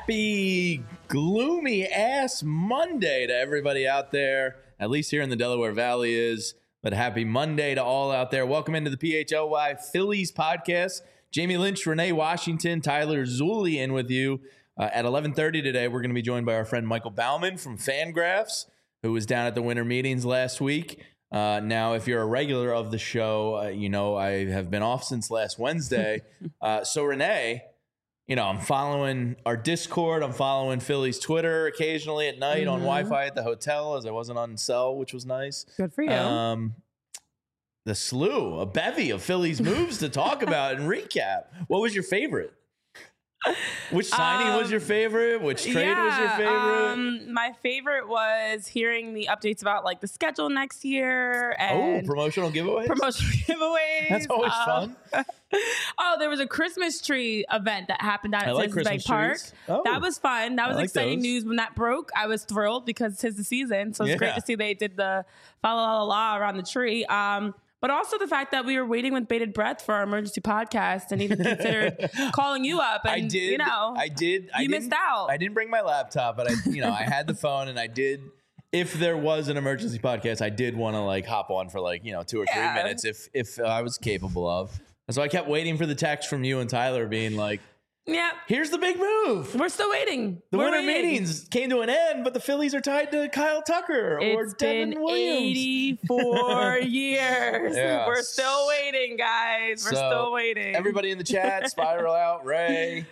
Happy gloomy ass Monday to everybody out there, at least here in the Delaware Valley is, but happy Monday to all out there. Welcome into the PHLY Phillies podcast. Jamie Lynch, Renee Washington, Tyler Zulli in with you. At 11:30 today, we're going to be joined by our friend Michael Bauman from Fangraphs, who was down at the winter meetings last week. Now, if you're a regular of the show, you know I have been off since last Wednesday. So Renee, you know, I'm following our Discord. I'm following Philly's Twitter occasionally at night on Wi-Fi at the hotel, as I wasn't on cell, which was nice. Good for you. The slew, a bevy of Philly's moves to talk about and recap. What was your favorite? Which signing was your favorite? Which trade was your favorite? My favorite was hearing the updates about like the schedule next year and promotional giveaways. That's always fun. There was a Christmas tree event that happened down at Citizens Bank Park. That was fun. That was exciting news when that broke. I was thrilled because 'tis the season, so it's great to see they did the fa la la la around the tree. But also the fact that we were waiting with bated breath for our emergency podcast and even considered calling you up. And, I did. You missed out. I didn't bring my laptop, but I had the phone, and I did. If there was an emergency podcast, I did want to like hop on for 2 or 3 minutes if I was capable of. And so I kept waiting for the text from you and Tyler being like, "Yeah, here's the big move. We're still waiting. We're winter meetings came to an end, but the Phillies are tied to Kyle Tucker or Devin Williams. 84 years. Yeah. We're still waiting, guys. We're still waiting. Everybody in the chat, Spiral Out, Ray,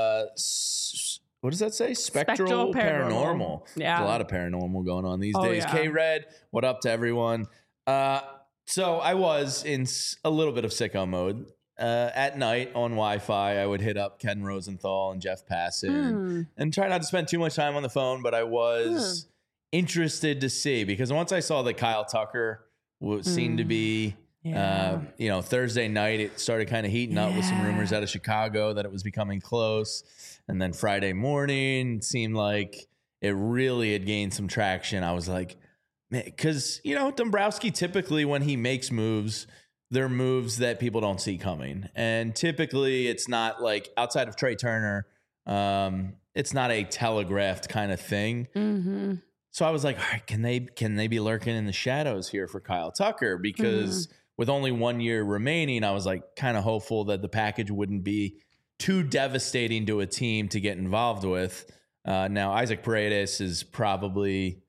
what does that say? Spectral Paranormal. Yeah. There's a lot of paranormal going on these days. Yeah. K-Red, what up to everyone? So I was in a little bit of sicko mode. At night on Wi-Fi, I would hit up Ken Rosenthal and Jeff Passan and try not to spend too much time on the phone, but I was interested to see, because once I saw that Kyle Tucker seemed to be, Thursday night, it started kind of heating up with some rumors out of Chicago that it was becoming close. And then Friday morning, it seemed like it really had gained some traction. I was like, man, because, Dombrowski typically when he makes moves, they're moves that people don't see coming. And typically it's not like outside of Trey Turner, it's not a telegraphed kind of thing. Mm-hmm. So I was like, all right, can they be lurking in the shadows here for Kyle Tucker? Because with only 1 year remaining, I was like kind of hopeful that the package wouldn't be too devastating to a team to get involved with. Now Isaac Paredes is probably...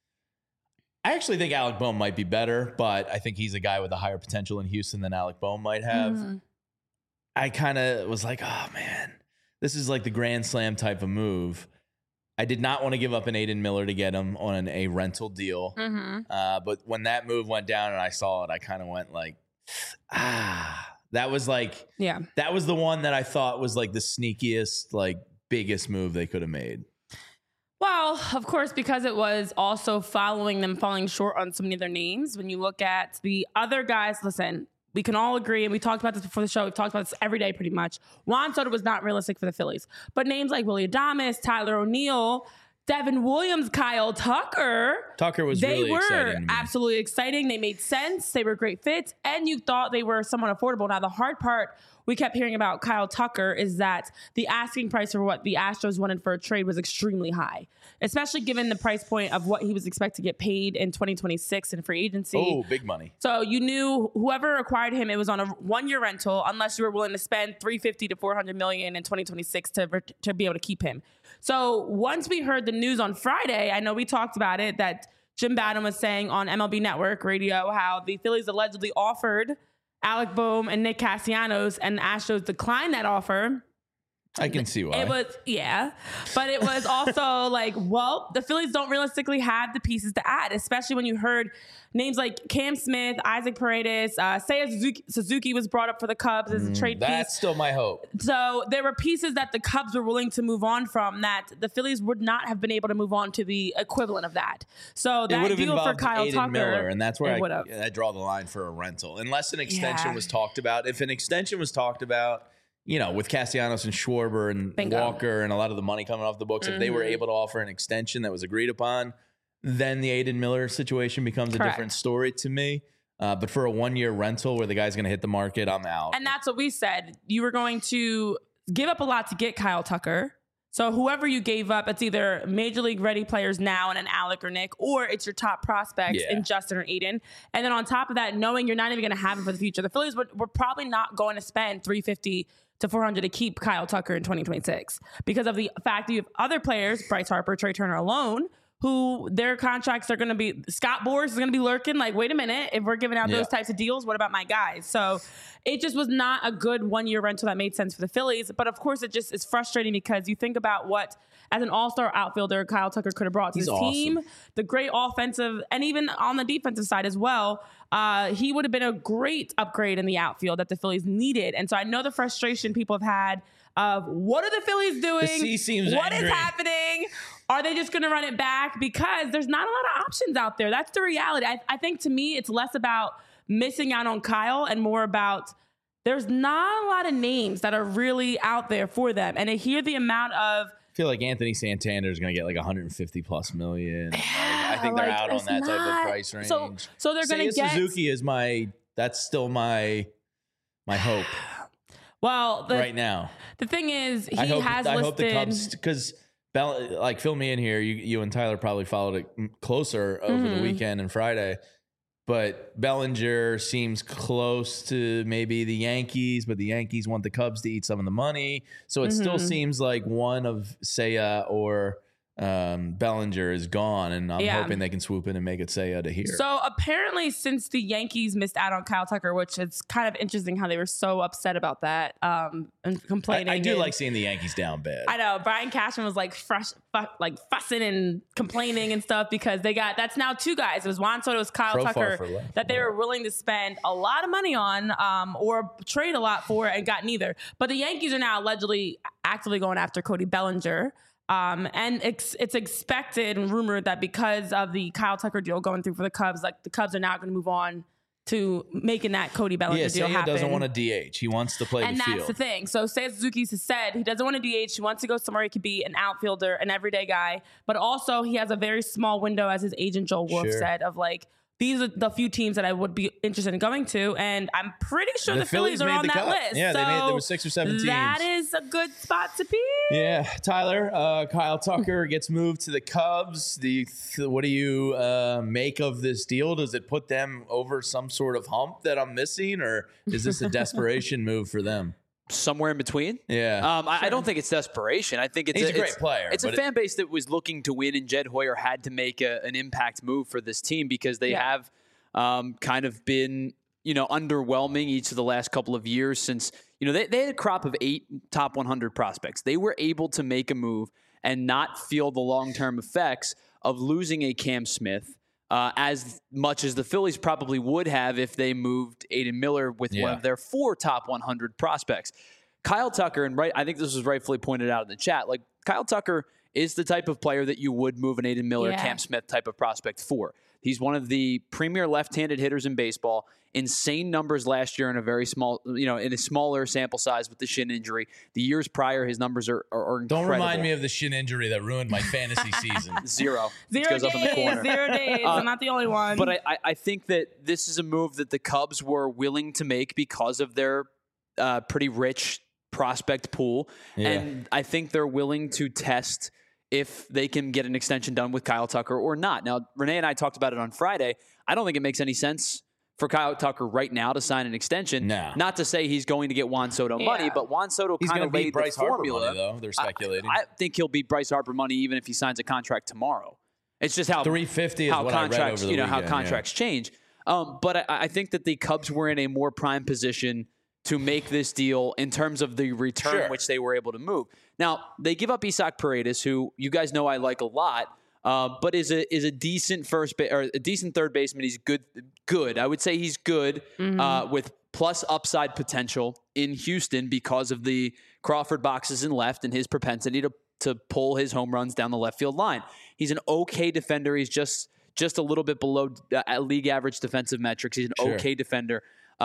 I actually think Alec Bohm might be better, but I think he's a guy with a higher potential in Houston than Alec Bohm might have. I kind of was like, oh, man, this is like the Grand Slam type of move. I did not want to give up an Aiden Miller to get him on a rental deal. But when that move went down and I saw it, I kind of went like, that was like, that was the one that I thought was like the sneakiest, like biggest move they could have made. Well, of course, because it was also following them falling short on so many of their names. When you look at the other guys, listen, we can all agree, and we talked about this before the show. We've talked about this every day pretty much. Juan Soto was not realistic for the Phillies. But names like Willy Adames, Tyler O'Neill, Devin Williams, Kyle Tucker. Tucker was really exciting. They were absolutely exciting. They made sense. They were great fits. And you thought they were somewhat affordable. Now, the hard part we kept hearing about Kyle Tucker is that the asking price for what the Astros wanted for a trade was extremely high, especially given the price point of what he was expected to get paid in 2026 in free agency. Oh, big money. So you knew whoever acquired him, it was on a 1 year rental, unless you were willing to spend $350 to $400 million in 2026 to be able to keep him. So once we heard the news on Friday, I know we talked about it, that Jim Badham was saying on MLB Network Radio how the Phillies allegedly offered Alec Bohm and Nick Castellanos, and the Astros declined that offer. I can see why. It was, but it was also like, well, the Phillies don't realistically have the pieces to add, especially when you heard names like Cam Smith, Isaac Paredes, Seiya Suzuki was brought up for the Cubs as a trade piece. That's still my hope. So there were pieces that the Cubs were willing to move on from that the Phillies would not have been able to move on to the equivalent of that. So that deal for Kyle Aiden Tucker, Miller, and that's where I draw the line for a rental, unless an extension was talked about. If an extension was talked about, with Castellanos and Schwarber and Walker and a lot of the money coming off the books, if they were able to offer an extension that was agreed upon, then the Aiden Miller situation becomes a different story to me. But for a 1 year rental where the guy's going to hit the market, I'm out. And that's what we said. You were going to give up a lot to get Kyle Tucker. So whoever you gave up, it's either major league ready players now and an Alec or Nick, or it's your top prospects in Justin or Aiden. And then on top of that, knowing you're not even going to have him for the future, the Phillies were probably not going to spend $350 to $400 to keep Kyle Tucker in 2026 because of the fact that you have other players, Bryce Harper, Trey Turner alone, who their contracts are going to be, Scott Boras is going to be lurking like, wait a minute, if we're giving out those types of deals, what about my guys? So it just was not a good 1 year rental that made sense for the Phillies. But of course, it just is frustrating because you think about what, as an all-star outfielder, Kyle Tucker could have brought to his team, the great offensive, and even on the defensive side as well. He would have been a great upgrade in the outfield that the Phillies needed. And so I know the frustration people have had of what are the Phillies doing? The C seems what angry. is happening? Are they just going to run it back? Because there's not a lot of options out there. That's the reality. I think to me, it's less about missing out on Kyle and more about there's not a lot of names that are really out there for them. And to hear the amount of, I feel like Anthony Santander is going to get like 150 plus million. I think they're out on that type of price range. So they're going to get Suzuki is that's still my hope. Well, right now, the thing is, I hope the Cubs, because fill me in here. You and Tyler probably followed it closer over the weekend and Friday. But Bellinger seems close to maybe the Yankees, but the Yankees want the Cubs to eat some of the money. So it still seems like one of Seiya or Bellinger is gone, and I'm hoping they can swoop in and make it Seiya to here. So apparently, since the Yankees missed out on Kyle Tucker, which is kind of interesting how they were so upset about that and complaining. I do like seeing the Yankees down bad. I know Brian Cashman was like fussing and complaining and stuff because that's now two guys. It was Juan Soto, it was Kyle Tucker that they were willing to spend a lot of money on or trade a lot for and got neither. But the Yankees are now allegedly actively going after Cody Bellinger. And it's expected and rumored that because of the Kyle Tucker deal going through for the Cubs, like the Cubs are now going to move on to making that Cody Bellinger deal happen. He doesn't want to DH. He wants to play the field. And that's the thing. So Seiya Suzuki has said he doesn't want to DH. He wants to go somewhere he could be an outfielder, an everyday guy. But also he has a very small window, as his agent Joel Wolf said, of like, these are the few teams that I would be interested in going to, and I'm pretty sure the Phillies are on that list. Yeah, there were 6 or 7 teams. That is a good spot to be. Yeah, Tyler, Kyle Tucker gets moved to the Cubs. What do you make of this deal? Does it put them over some sort of hump that I'm missing, or is this a desperation move for them? Somewhere in between. Yeah. I don't think it's desperation. I think he's a great player. It's a fan base that was looking to win, and Jed Hoyer had to make an impact move for this team because they have kind of been, underwhelming each of the last couple of years since, they had a crop of 8 top 100 prospects. They were able to make a move and not feel the long-term effects of losing a Cam Smith, as much as the Phillies probably would have if they moved Aiden Miller with one of their 4 top 100 prospects. Kyle Tucker, and I think this was rightfully pointed out in the chat, like Kyle Tucker is the type of player that you would move an Aiden Miller, Cam Smith type of prospect for. He's one of the premier left-handed hitters in baseball. Insane numbers last year in a very small, in a smaller sample size with the shin injury. The years prior, his numbers are incredible. Don't remind me of the shin injury that ruined my fantasy season. Zero days. Goes up in the corner. 0 days. I'm not the only one. But I think that this is a move that the Cubs were willing to make because of their pretty rich prospect pool. Yeah. And I think they're willing to test if they can get an extension done with Kyle Tucker or not. Now, Renee and I talked about it on Friday. I don't think it makes any sense for Kyle Tucker right now to sign an extension. No. Not to say he's going to get Juan Soto money, but Juan Soto kind of laid the formula. Money, though. They're speculating. I think he'll beat Bryce Harper money even if he signs a contract tomorrow. It's just how $350 is what contracts, I read over the weekend, how contracts change. But I think that the Cubs were in a more prime position to make this deal in terms of the return which they were able to move. Now, they give up Isaac Paredes, who you guys know I like a lot, but is a decent a decent third baseman. He's good. I would say he's good with plus upside potential in Houston because of the Crawford boxes in left and his propensity to pull his home runs down the left field line. He's an okay defender. He's just a little bit below league average defensive metrics. He's an okay defender.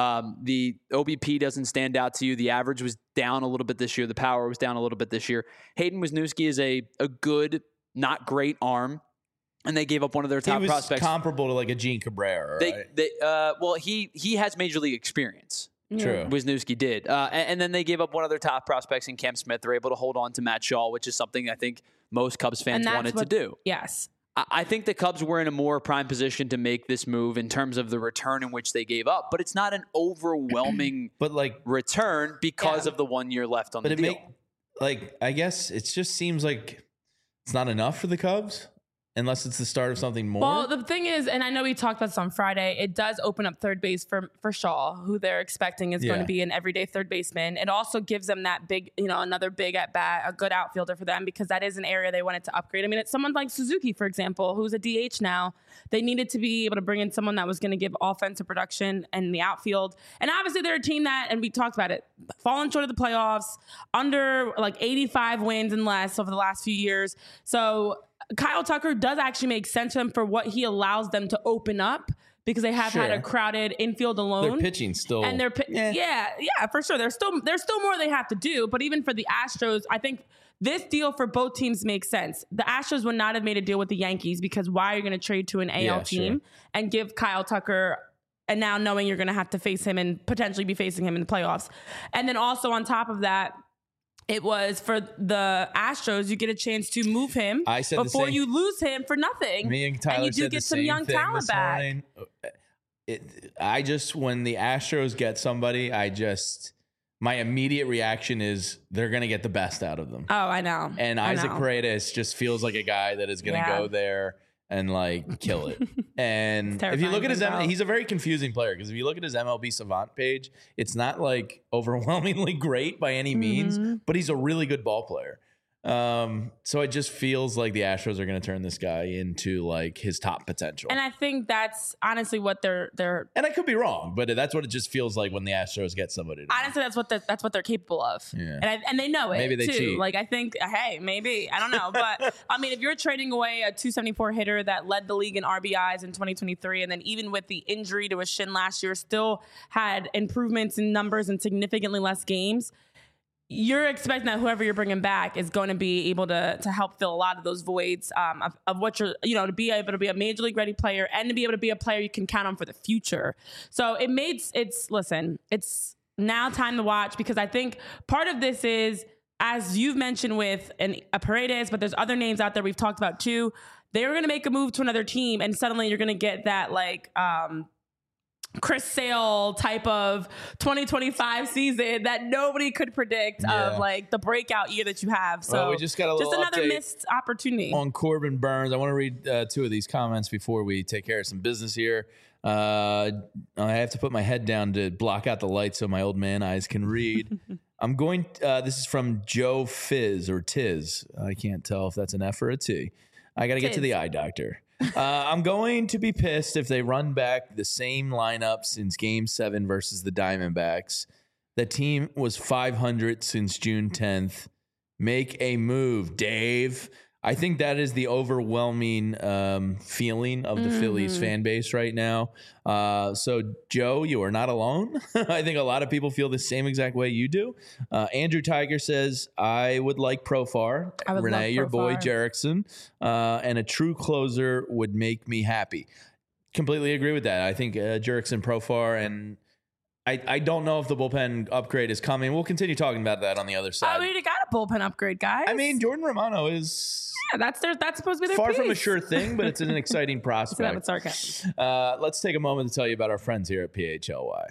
The OBP doesn't stand out to you. The average was down a little bit this year. The power was down a little bit this year. Hayden Wesniewski is a good, not great arm, and they gave up one of their top prospects. Comparable to like a Gene Cabrera, right? Well, he has major league experience. True. Wisniewski did. And then they gave up one of their top prospects in Cam Smith. They're able to hold on to Matt Shaw, which is something I think most Cubs fans wanted to do. Yes. I think the Cubs were in a more prime position to make this move in terms of the return in which they gave up, but it's not an overwhelming return because of the 1 year left on the deal. I guess it just seems like it's not enough for the Cubs. Unless it's the start of something more. Well, the thing is, and I know we talked about this on Friday, it does open up third base for Shaw, who they're expecting is going to be an everyday third baseman. It also gives them that big, another big at bat, a good outfielder for them, because that is an area they wanted to upgrade. I mean, it's someone like Suzuki, for example, who's a DH now. They needed to be able to bring in someone that was going to give offensive production in the outfield. And obviously they're a team that, and we talked about it, fallen short of the playoffs, under 85 wins and less over the last few years. So Kyle Tucker does actually make sense to them for what he allows them to open up, because they have had a crowded infield alone. They're pitching still. And they're for sure. There's still more they have to do. But even for the Astros, I think this deal for both teams makes sense. The Astros would not have made a deal with the Yankees, because why are you going to trade to an AL team and give Kyle Tucker, and now knowing you're going to have to face him and potentially be facing him in the playoffs. And then also on top of that, it was for the Astros, you get a chance to move him before you lose him for nothing. Me and Tyler you do get some young talent back. When the Astros get somebody, my immediate reaction is they're going to get the best out of them. Oh, I know. And Isaac Paredes just feels like a guy that is going to go there and kill it. And if you look at his he's a very confusing player, because if you look at his MLB Savant page, it's not overwhelmingly great by any means, but he's a really good ball player. So it just feels like the Astros are going to turn this guy into his top potential. And I think that's honestly what they're and I could be wrong, but that's what it just feels like when the Astros get somebody. Honestly, that's what they're capable of. Yeah. And they know it. Maybe they cheat. I think, hey, maybe, I don't know. But I mean, if you're trading away a 274 hitter that led the league in RBIs in 2023, and then even with the injury to his shin last year, still had improvements in numbers and significantly less games, you're expecting that whoever you're bringing back is going to be able to help fill a lot of those voids of what you're, to be able to be a major league ready player and to be able to be a player you can count on for the future. So it's now time to watch, because I think part of this is, as you've mentioned with a Paredes, but there's other names out there we've talked about too. They were going to make a move to another team, and suddenly you're going to get that Chris Sale type of 2025 season that nobody could predict of the breakout year that you have. So we just got a little another missed opportunity on Corbin Burns. I want to read two of these comments before we take care of some business here. I have to put my head down to block out the light so my old man eyes can read. This is from Joe Fizz or Tiz. I can't tell if that's an F or a T. I got to get to the eye doctor. I'm going to be pissed if they run back the same lineup since Game 7 versus the Diamondbacks. The team was 500 since June 10th. Make a move, Dave. I think that is the overwhelming feeling of the Phillies fan base right now. So, Joe, you are not alone. I think a lot of people feel the same exact way you do. Andrew Tiger says, I would like Profar. Renee, your boy, Jerickson. And a true closer would make me happy. Completely agree with that. I think Jerickson, Profar, and I don't know if the bullpen upgrade is coming. We'll continue talking about that on the other side. We already got a bullpen upgrade, guys. I mean, Jordan Romano is... Yeah, that's supposed to be their far piece. from a sure thing, but it's an exciting prospect. With sarcasm. Let's take a moment to tell you about our friends here at PHLY.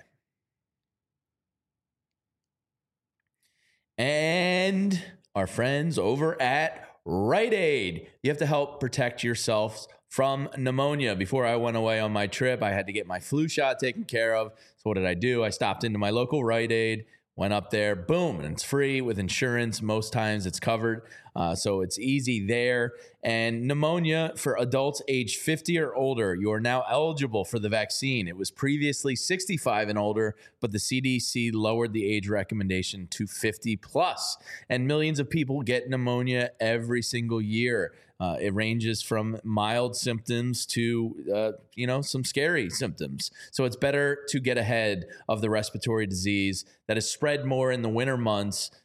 And our friends over at Rite Aid. You have to help protect yourself from pneumonia. Before I went away on my trip, I had to get my flu shot taken care of. So what did I do? I stopped into my local Rite Aid, went up there, boom, and it's free with insurance. Most times it's covered. So it's easy there. And pneumonia for adults age 50 or older, you are now eligible for the vaccine. It was previously 65 and older, but the CDC lowered the age recommendation to 50 plus. And millions of people get pneumonia every single year. It ranges from mild symptoms to, some scary symptoms. So it's better to get ahead of the respiratory disease that is spread more in the winter months.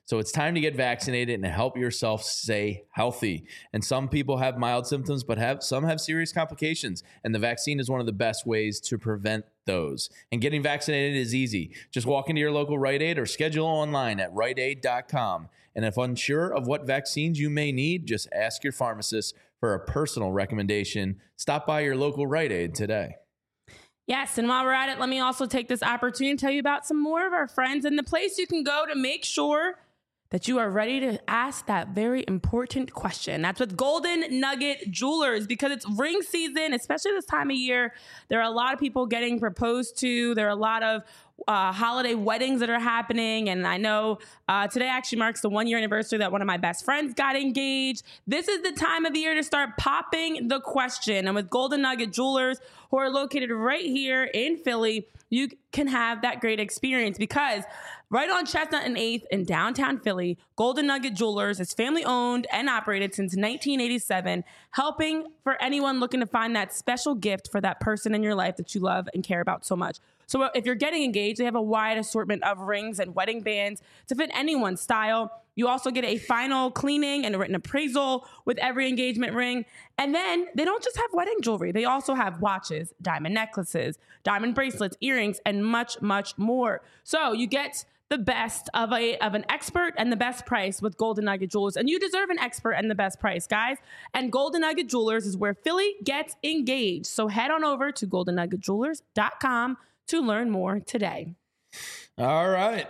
So it's time to get vaccinated and help yourself stay healthy. And some people have mild symptoms, but some have serious complications. And the vaccine is one of the best ways to prevent those. And getting vaccinated is easy. Just walk into your local Rite Aid or schedule online at riteaid.com. And if unsure of what vaccines you may need, just ask your pharmacist for a personal recommendation. Stop by your local Rite Aid today. Yes, and while we're at it, let me also take this opportunity to tell you about some more of our friends and the place you can go to make sure that you are ready to ask that very important question. That's with Golden Nugget Jewelers, because it's ring season, especially this time of year. There are a lot of people getting proposed to. There are a lot of holiday weddings that are happening. And I know today actually marks the 1-year anniversary that one of my best friends got engaged. This is the time of the year to start popping the question. And with Golden Nugget Jewelers, who are located right here in Philly, you can have that great experience, because right on Chestnut and 8th in downtown Philly, Golden Nugget Jewelers is family owned and operated since 1987, helping for anyone looking to find that special gift for that person in your life that you love and care about so much. So if you're getting engaged, they have a wide assortment of rings and wedding bands to fit anyone's style. You also get a final cleaning and a written appraisal with every engagement ring. And then they don't just have wedding jewelry. They also have watches, diamond necklaces, diamond bracelets, earrings, and much, much more. So you get the best of an expert and the best price with Golden Nugget Jewelers. And you deserve an expert and the best price, guys. And Golden Nugget Jewelers is where Philly gets engaged. So head on over to goldennuggetjewelers.com to learn more today. All right.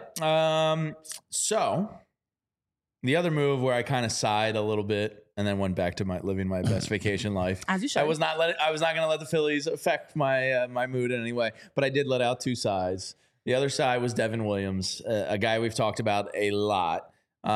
So the other move where I kind of sighed a little bit and then went back to living my best vacation life. As you should. I was not going to let the Phillies affect my my mood in any way, but I did let out 2 sighs. The other side was Devin Williams, a guy we've talked about a lot.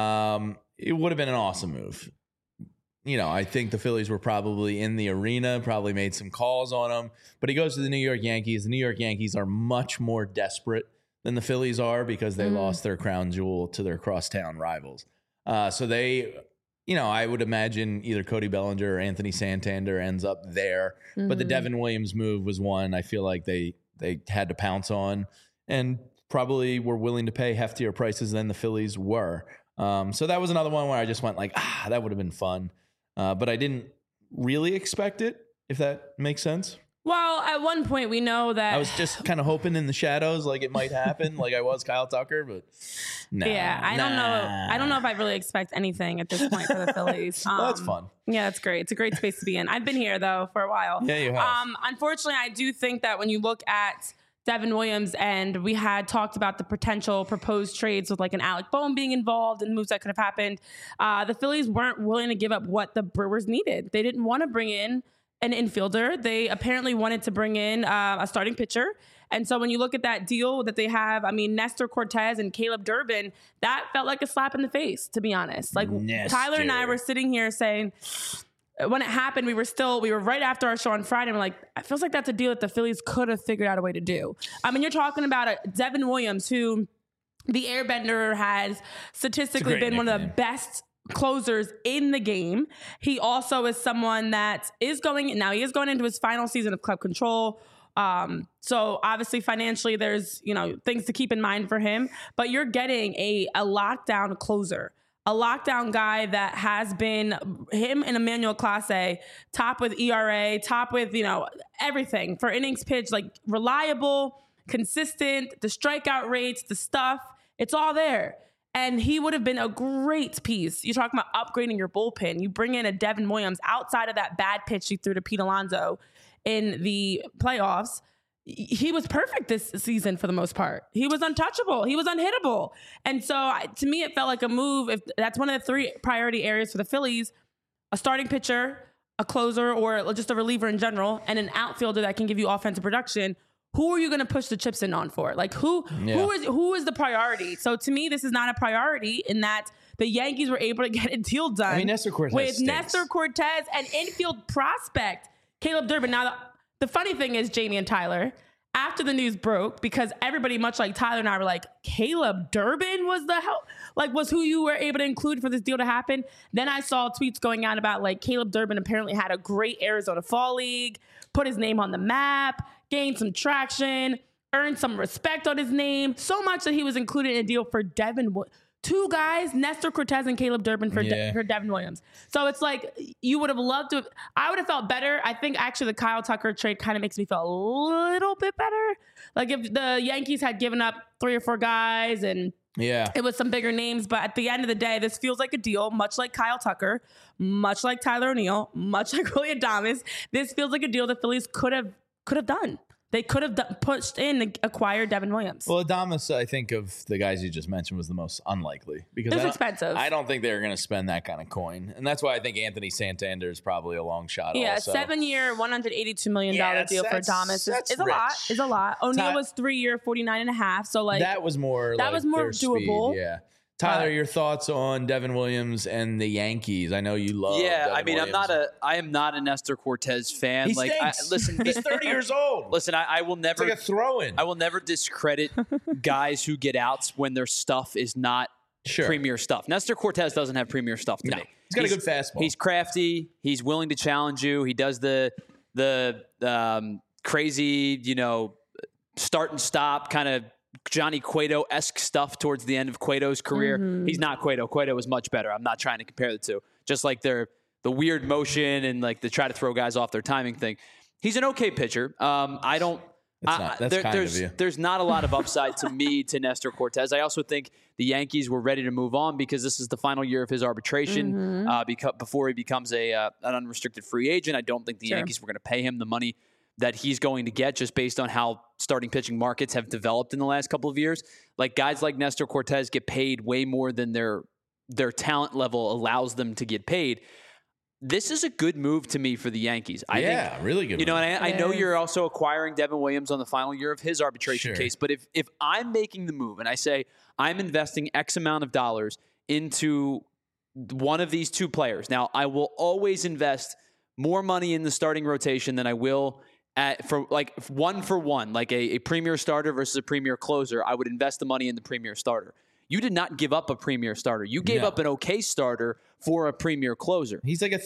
It would have been an awesome move. You know, I think the Phillies were probably in the arena, probably made some calls on him, but he goes to the New York Yankees. The New York Yankees are much more desperate than the Phillies are, because they lost their crown jewel to their crosstown rivals. So they, you know, I would imagine either Cody Bellinger or Anthony Santander ends up there. But the Devin Williams move was one I feel like they had to pounce on, and probably were willing to pay heftier prices than the Phillies were. So that was another one where I just went like, that would have been fun. But I didn't really expect it, if that makes sense. Well, at one point we know that I was just kind of hoping in the shadows, like it might happen, like I was Kyle Tucker, but no. Yeah, I don't know. I don't know if I really expect anything at this point for the Phillies. Well, that's fun. Yeah, that's great. It's a great space to be in. I've been here though for a while. Yeah, you have. Unfortunately, I do think that when you look at Devin Williams, and we had talked about the potential proposed trades with like an Alec Boehm being involved and moves that could have happened. The Phillies weren't willing to give up what the Brewers needed. They didn't want to bring in an infielder. They apparently wanted to bring in a starting pitcher. And so when you look at that deal that they have, I mean, Nestor Cortez and Caleb Durbin, that felt like a slap in the face, to be honest. Like Tyler and I were sitting here saying, when it happened, we were right after our show on Friday. And we're like, it feels like that's a deal that the Phillies could have figured out a way to do. I mean, you're talking about Devin Williams, who the Airbender has statistically been one of the best closers in the game. He also is someone that he is going into his final season of club control. So obviously financially there's, things to keep in mind for him, but you're getting a lockdown closer. A lockdown guy that has been him and Emmanuel Clase, top with ERA, top with, everything for innings pitched, like reliable, consistent, the strikeout rates, the stuff, it's all there. And he would have been a great piece. You're talking about upgrading your bullpen. You bring in a Devin Williams outside of that bad pitch he threw to Pete Alonso in the playoffs. He was perfect this season for the most part. He was untouchable. He was unhittable. And so to me, it felt like a move. If that's one of the 3 priority areas for the Phillies, a starting pitcher, a closer, or just a reliever in general, and an outfielder that can give you offensive production. Who are you going to push the chips in on for? Like who is the priority? So to me, this is not a priority in that the Yankees were able to get a deal done. I mean, Nestor Cortez and infield prospect Caleb Durbin. Now, the funny thing is, Jamie and Tyler, after the news broke, because everybody, much like Tyler and I, were like, Caleb Durbin was who you were able to include for this deal to happen. Then I saw tweets going out about like Caleb Durbin apparently had a great Arizona Fall League, put his name on the map, gained some traction, earned some respect on his name, so much that he was included in a deal for Devin. two guys, Nestor Cortez and Caleb Durbin for Devin Williams. So it's like you would have loved to. I would have felt better. I think actually the Kyle Tucker trade kind of makes me feel a little bit better. Like if the Yankees had given up 3 or 4 guys and it was some bigger names, but at the end of the day, this feels like a deal, much like Kyle Tucker, much like Tyler O'Neill, much like Willy Adames. This feels like a deal the Phillies could have done. They could have pushed in and acquired Devin Williams. Well, Adames, I think of the guys you just mentioned, was the most unlikely because it's expensive. I don't think they're going to spend that kind of coin, and that's why I think Anthony Santander is probably a long shot. Yeah, also. 7-year, $182 million deal for Adames is a lot. Is a lot. O'Neill was 3-year, $49.5. So like that was more doable. Speed, yeah. Tyler, your thoughts on Devin Williams and the Yankees? I know you love. Yeah, Devin I mean, Williams. I am not a Nestor Cortez fan. He stinks. Listen, he's 30 years old. Listen, I will never. It's like a throw-in. I will never discredit guys who get outs when their stuff is not premier stuff. Nestor Cortez doesn't have premier stuff to me. He's got a good fastball. He's crafty. He's willing to challenge you. He does the crazy, start and stop kind of Johnny Cueto-esque stuff towards the end of Cueto's career. Mm-hmm. He's not Cueto. Cueto was much better. I'm not trying to compare the two. Just like the weird motion and like the try to throw guys off their timing thing. He's an okay pitcher. There's not a lot of upside to me to Nestor Cortez. I also think the Yankees were ready to move on because this is the final year of his arbitration before he becomes an unrestricted free agent. I don't think the Yankees were going to pay him the money that he's going to get just based on how starting pitching markets have developed in the last couple of years. Like guys like Nestor Cortez get paid way more than their talent level allows them to get paid. This is a good move to me for the Yankees. I think, really good. And I know you're also acquiring Devin Williams on the final year of his arbitration case, but if I'm making the move and I say I'm investing X amount of dollars into one of these two players, now I will always invest more money in the starting rotation than I will for one, like a premier starter versus a premier closer. I would invest the money in the premier starter. You did not give up a premier starter. You gave up an okay starter for a premier closer. He's like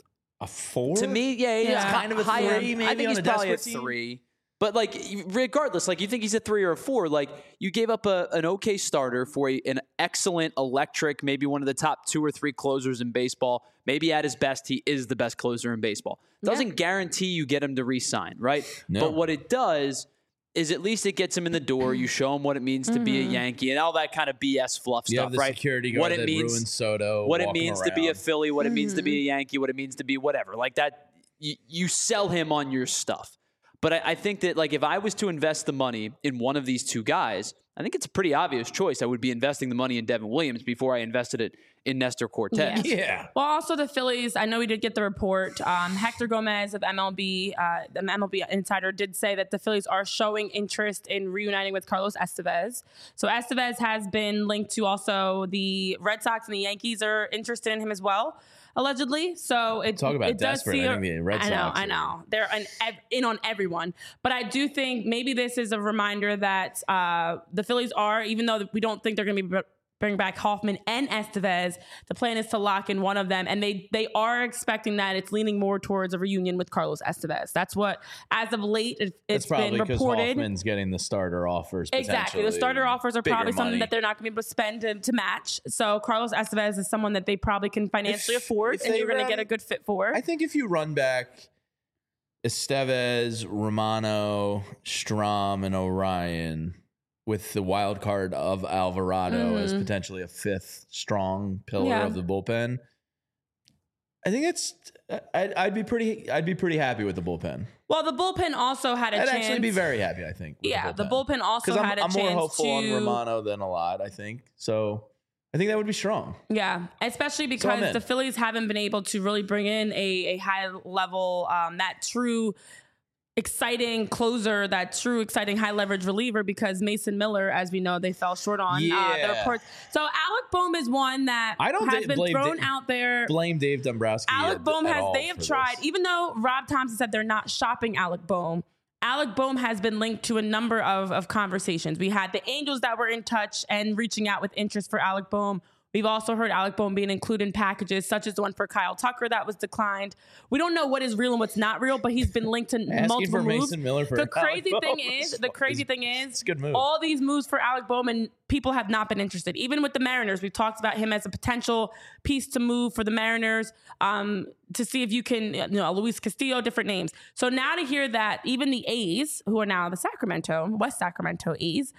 a 4? To me, he's kind of a 3, maybe I think on he's probably a 3. But like, regardless, like you think he's a 3 or a 4, like you gave up an okay starter for an excellent electric, maybe one of the top 2 or 3 closers in baseball. Maybe at his best, he is the best closer in baseball. Doesn't guarantee you get him to re-sign, right? No. But what it does is at least it gets him in the door. You show him what it means to be a Yankee and all that kind of BS fluff you stuff, have the right? Security guard that ruins Soto. What it means to be a Philly, what it means to be a Yankee, what it means to be whatever. Like that, you sell him on your stuff. But I think that like if I was to invest the money in one of these two guys, I think it's a pretty obvious choice. I would be investing the money in Devin Williams before I invested it in Nestor Cortez. Yeah. Well, also the Phillies, I know we did get the report. Hector Gomez of MLB, the MLB Insider did say that the Phillies are showing interest in reuniting with Carlos Estevez. So Estevez has been linked to also the Red Sox, and the Yankees are interested in him as well, allegedly. So it does see I think the Red Sox. I know. They're in on everyone. But I do think maybe this is a reminder that the Phillies are, even though we don't think they're going to be bring back Hoffman and Estevez, the plan is to lock in one of them. And they are expecting that it's leaning more towards a reunion with Carlos Estevez. That's what, as of late, it's been reported. Because Hoffman's getting the starter offers. Exactly. The starter offers are probably something that they're not going to be able to spend to match. So Carlos Estevez is someone that they probably can financially afford, and you're going to get a good fit for. I think if you run back Estevez, Romano, Strahm, and Orion with the wild card of Alvarado as potentially a 5th strong pillar of the bullpen, I think I'd be pretty happy with the bullpen. Well, the bullpen also had a chance. I'd actually be very happy, I think. The bullpen also had a chance. I'm more hopeful on Romano than a lot, I think. So I think that would be strong. Yeah, especially because the Phillies haven't been able to really bring in a high level, that true exciting closer, that true exciting high leverage reliever, because Mason Miller, as we know, they fell short on the reports. So Alec Bohm is one that has been thrown out there. Blame Dave Dombrowski. Alec Bohm they have tried, even though Rob Thompson said they're not shopping Alec Bohm. Alec Bohm has been linked to a number of conversations. We had the Angels that were in touch and reaching out with interest for Alec Bohm. We've also heard Alec Bohm being included in packages such as the one for Kyle Tucker that was declined. We don't know what is real and what's not real, but he's been linked to multiple moves. Mason Miller for the crazy thing is, it's a good move. All these moves for Alec Bohm, and people have not been interested. Even with the Mariners, we've talked about him as a potential piece to move for the Mariners, to see if you can, Luis Castillo, different names. So now to hear that even the A's, who are now the West Sacramento A's,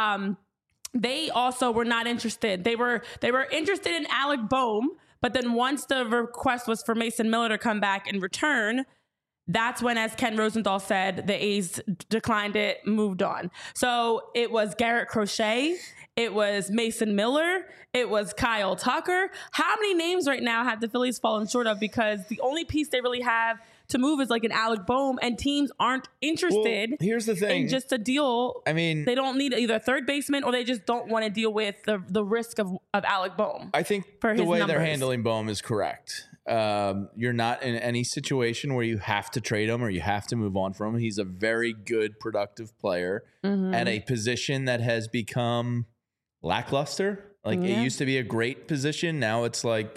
they also were not interested. They were interested in Alec Bohm, but then once the request was for Mason Miller to come back and return, that's when, as Ken Rosenthal said, the A's declined it, moved on. So it was Garrett Crochet, it was Mason Miller, it was Kyle Tucker. How many names right now have the Phillies fallen short of? Because the only piece they really have to move is like an Alec Bohm, and teams aren't interested. Well, here's the thing. In just a deal. I mean, they don't need either a third baseman, or they just don't want to deal with the risk of Alec Bohm. I think the way they're handling Bohm is correct. You're not in any situation where you have to trade him or you have to move on from him. He's a very good, productive player at a position that has become lackluster. Like it used to be a great position. Now it's like,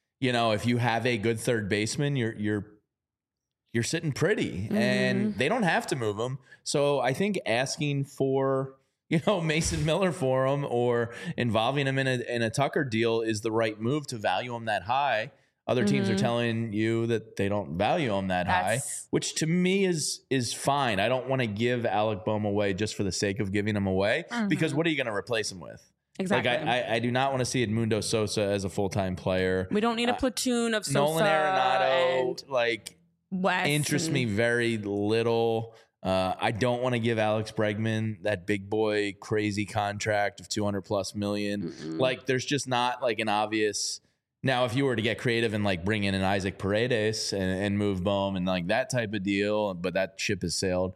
if you have a good third baseman, you're sitting pretty, and they don't have to move him. So I think asking for, Mason Miller for him or involving him in a Tucker deal is the right move to value him that high. Other teams are telling you that they don't value him that high, which to me is fine. I don't want to give Alec Bohm away just for the sake of giving him away, because what are you going to replace him with? Exactly. Like I do not want to see Edmundo Sosa as a full-time player. We don't need a platoon of Sosa. Nolan Arenado, and West interests me very little. I don't want to give Alex Bregman that big boy crazy contract of $200+ million. Like there's just not like an obvious. Now, if you were to get creative and like bring in an Isaac Paredes and move Bohm and like that type of deal, but that ship has sailed,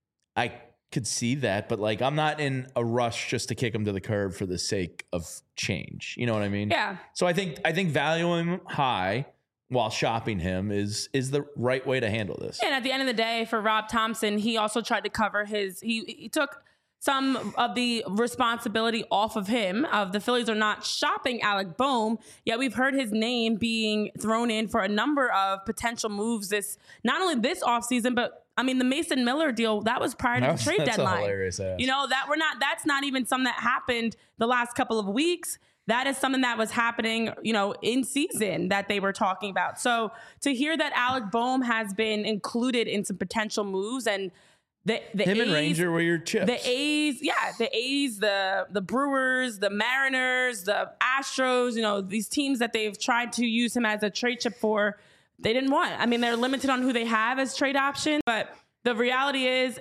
I could see that. But like, I'm not in a rush just to kick him to the curb for the sake of change. You know what I mean? Yeah. So I think valuing him high while shopping him is the right way to handle this. And at the end of the day, for Rob Thompson, he also tried to cover he took some of the responsibility off of him. The Phillies are not shopping Alec Bohm, yet we've heard his name being thrown in for a number of potential moves not only this offseason, but I mean the Mason Miller deal, that was prior to the trade deadline. Hilarious ass. That's not even something that happened the last couple of weeks. That is something that was happening, in season that they were talking about. So to hear that Alec Bohm has been included in some potential moves, and the him A's, and Ranger were your chips. The A's, the Brewers, the Mariners, the Astros, these teams that they've tried to use him as a trade chip for, they didn't want. I mean, they're limited on who they have as trade options, but the reality is,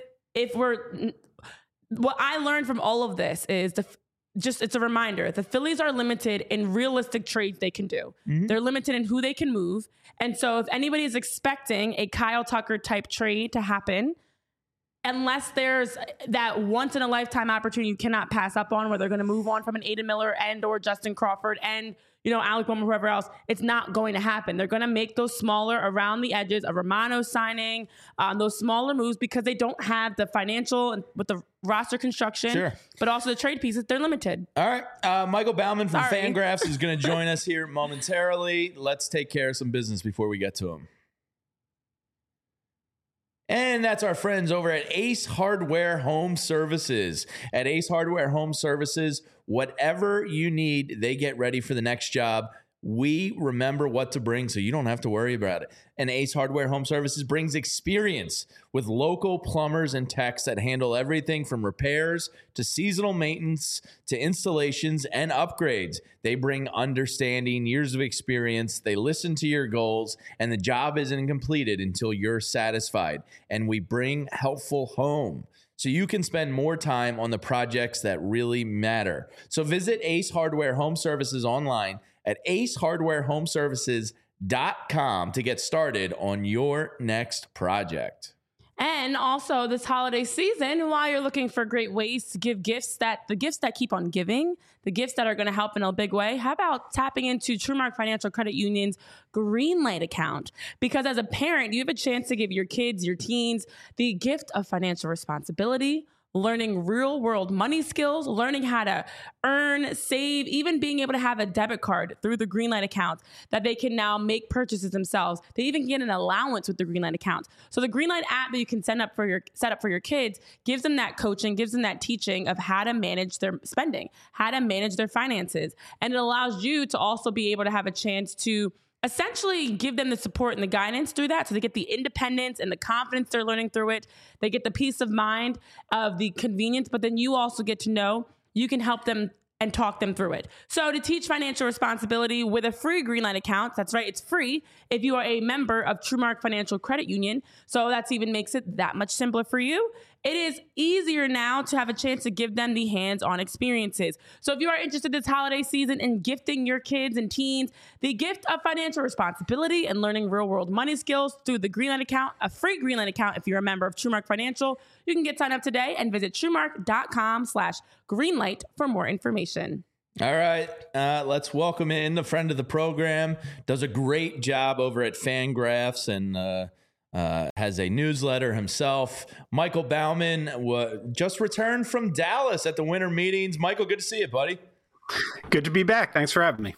what I learned from all of this is it's a reminder. The Phillies are limited in realistic trades they can do. They're limited in who they can move. And so if anybody is expecting a Kyle Tucker type trade to happen, unless there's that once in a lifetime opportunity you cannot pass up on, where they're going to move on from an Aidan Miller and or Justin Crawford and, Alec Bohm or whoever else, it's not going to happen. They're going to make those smaller around the edges, a Romano signing, those smaller moves, because they don't have the financial and with the roster construction, but also the trade pieces. They're limited. All right. Michael Bauman from Fangraphs is going to join us here momentarily. Let's take care of some business before we get to him. And that's our friends over at Ace Hardware Home Services. At Ace Hardware Home Services, whatever you need, they get ready for the next job. We remember what to bring so you don't have to worry about it. And Ace Hardware Home Services brings experience with local plumbers and techs that handle everything from repairs to seasonal maintenance to installations and upgrades. They bring understanding, years of experience. They listen to your goals, and the job isn't completed until you're satisfied. And we bring helpful home so you can spend more time on the projects that really matter. So visit Ace Hardware Home Services online at acehardwarehomeservices.com to get started on your next project. And also this holiday season, while you're looking for great ways to give the gifts that keep on giving, the gifts that are going to help in a big way, how about tapping into TrueMark Financial Credit Union's Greenlight account? Because as a parent, you have a chance to give your kids, your teens, the gift of financial responsibility, learning real world money skills, learning how to earn, save, even being able to have a debit card through the Greenlight account that they can now make purchases themselves. They even get an allowance with the Greenlight account. So the Greenlight app that you can set up for your kids gives them that coaching, gives them that teaching of how to manage their spending, how to manage their finances. And it allows you to also be able to have a chance to essentially give them the support and the guidance through that. So they get the independence and the confidence they're learning through it. They get the peace of mind of the convenience, but then you also get to know you can help them and talk them through it. So to teach financial responsibility with a free Greenlight account, that's right, it's free if you are a member of TrueMark Financial Credit Union. So that's even makes it that much simpler for you. It is easier now to have a chance to give them the hands-on experiences. So if you are interested this holiday season in gifting your kids and teens the gift of financial responsibility and learning real-world money skills through the Greenlight account, a free Greenlight account if you're a member of TrueMark Financial, you can get signed up today and visit TrueMark.com/Greenlight for more information. All right, let's welcome in the friend of the program. Does a great job over at Fangraphs and has a newsletter himself. Michael Baumann just returned from Dallas at the winter meetings. Michael, good to see you, buddy. Good to be back. Thanks for having me.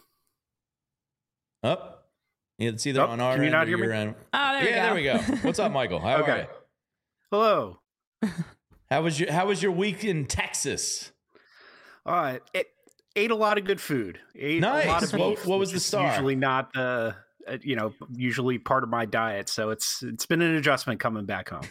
It's either on our end or your end. Oh, there we go. What's up, Michael? How are you? Hello. How was your week in Texas? It ate a lot of good food. Nice. A lot of beef, what was the star? Usually not usually part of my diet. So it's been an adjustment coming back home.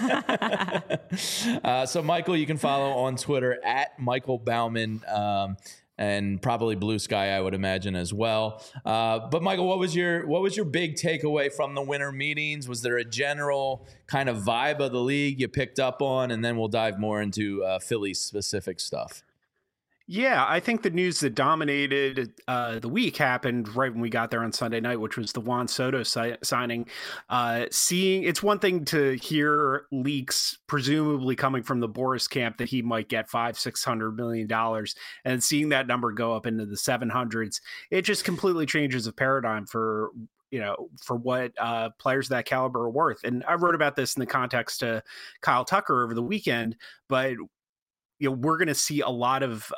So Michael, you can follow on Twitter at Michael Baumann, and probably Blue Sky, I would imagine as well. But Michael, what was your big takeaway from the winter meetings? Was there a general kind of vibe of the league you picked up on? And then we'll dive more into Philly specific stuff. Yeah, I think the news that dominated the week happened right when we got there on Sunday night, which was the Juan Soto signing. It's one thing to hear leaks presumably coming from the Boris camp that he might get $500-600 million, and seeing that number go up into the 700s, it just completely changes the paradigm for what players of that caliber are worth. And I wrote about this in the context of Kyle Tucker over the weekend, but we're going to see a lot of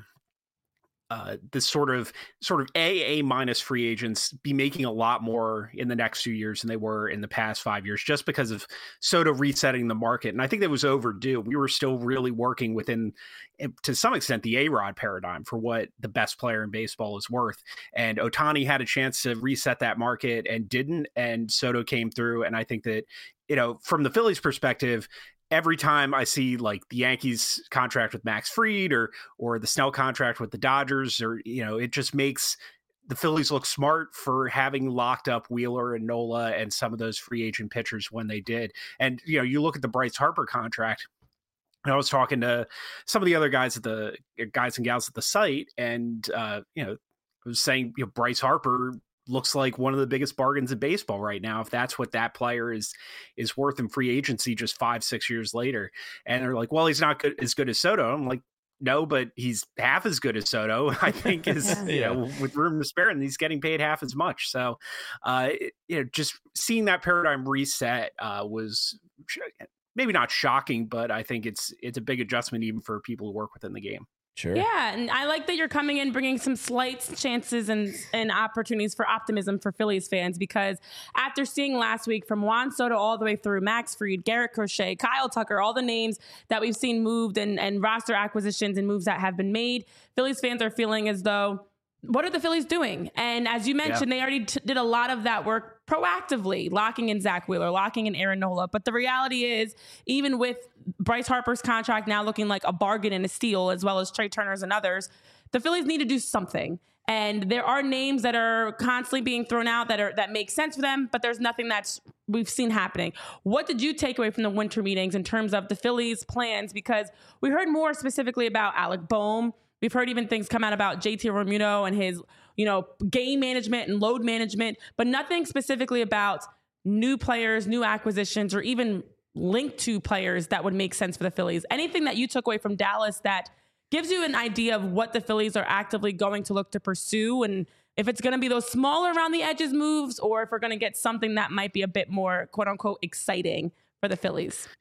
this sort of A minus free agents be making a lot more in the next few years than they were in the past 5 years, just because of Soto resetting the market. And I think that was overdue. We were still really working within, to some extent, the A-Rod paradigm for what the best player in baseball is worth. And Ohtani had a chance to reset that market and didn't, and Soto came through. And I think that, from the Phillies' perspective, every time I see like the Yankees contract with Max Fried or the Snell contract with the Dodgers, it just makes the Phillies look smart for having locked up Wheeler and Nola and some of those free agent pitchers when they did. And, you look at the Bryce Harper contract, and I was talking to some of the other guys and gals at the site, and, I was saying, Bryce Harper looks like one of the biggest bargains in baseball right now, if that's what that player is worth in free agency just 5-6 years later. And they're like, well, he's not as good as Soto. I'm like, no, but he's half as good as Soto, I think, is with room to spare, and he's getting paid half as much. So just seeing that paradigm reset was maybe not shocking, but I think it's a big adjustment even for people who work within the game. Sure. Yeah, and I like that you're coming in bringing some slight chances and opportunities for optimism for Phillies fans, because after seeing last week from Juan Soto all the way through Max Fried, Garrett Crochet, Kyle Tucker, all the names that we've seen moved and roster acquisitions and moves that have been made, Phillies fans are feeling as though, what are the Phillies doing? And as you mentioned, they already did a lot of that work proactively, locking in Zach Wheeler, locking in Aaron Nola. But the reality is, even with Bryce Harper's contract now looking like a bargain and a steal, as well as Trey Turner's and others, the Phillies need to do something. And there are names that are constantly being thrown out that make sense for them, but there's nothing we've seen happening. What did you take away from the winter meetings in terms of the Phillies' plans? Because we heard more specifically about Alec Boehm. We've heard even things come out about JT Realmuto and his, game management and load management, but nothing specifically about new players, new acquisitions, or even linked to players that would make sense for the Phillies. Anything that you took away from Dallas that gives you an idea of what the Phillies are actively going to look to pursue, and if it's going to be those smaller around the edges moves, or if we're going to get something that might be a bit more quote unquote exciting for the Phillies?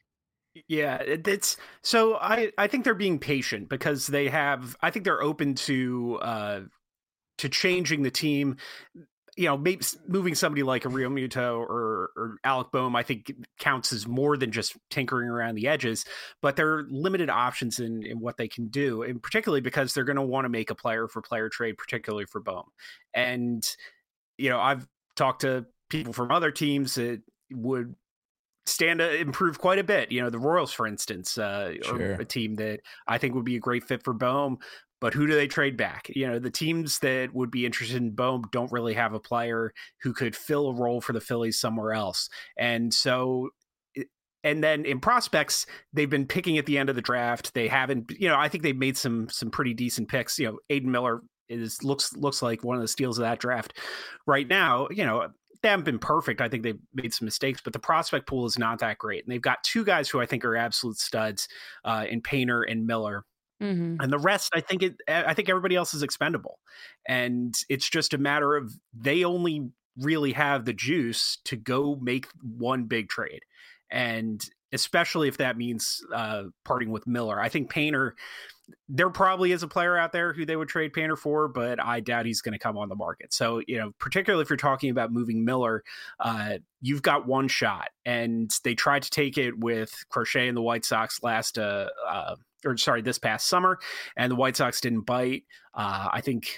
Yeah, it's so I think they're being patient because I think they're open to changing the team. Maybe moving somebody like a Realmuto or Alec Boehm, I think counts as more than just tinkering around the edges, but there are limited options in what they can do, and particularly because they're going to want to make a player for player trade, particularly for Boehm. And, I've talked to people from other teams that would stand to improve quite a bit. The Royals, for instance, are a team that I think would be a great fit for Boehm. But who do they trade back? The teams that would be interested in Boehm don't really have a player who could fill a role for the Phillies somewhere else. And so, and then in prospects, they've been picking at the end of the draft. They haven't, I think they've made some pretty decent picks. Aiden Miller looks like one of the steals of that draft right now. They haven't been perfect. I think they've made some mistakes, but the prospect pool is not that great. And they've got two guys who I think are absolute studs in Painter and Miller. Mm-hmm. And the rest, I think everybody else is expendable. And it's just a matter of they only really have the juice to go make one big trade. And especially if that means parting with Miller. I think Painter, there probably is a player out there who they would trade Painter for, but I doubt he's going to come on the market. So, particularly if you're talking about moving Miller, you've got one shot. And they tried to take it with Crochet and the White Sox this past summer, and the White Sox didn't bite. I think,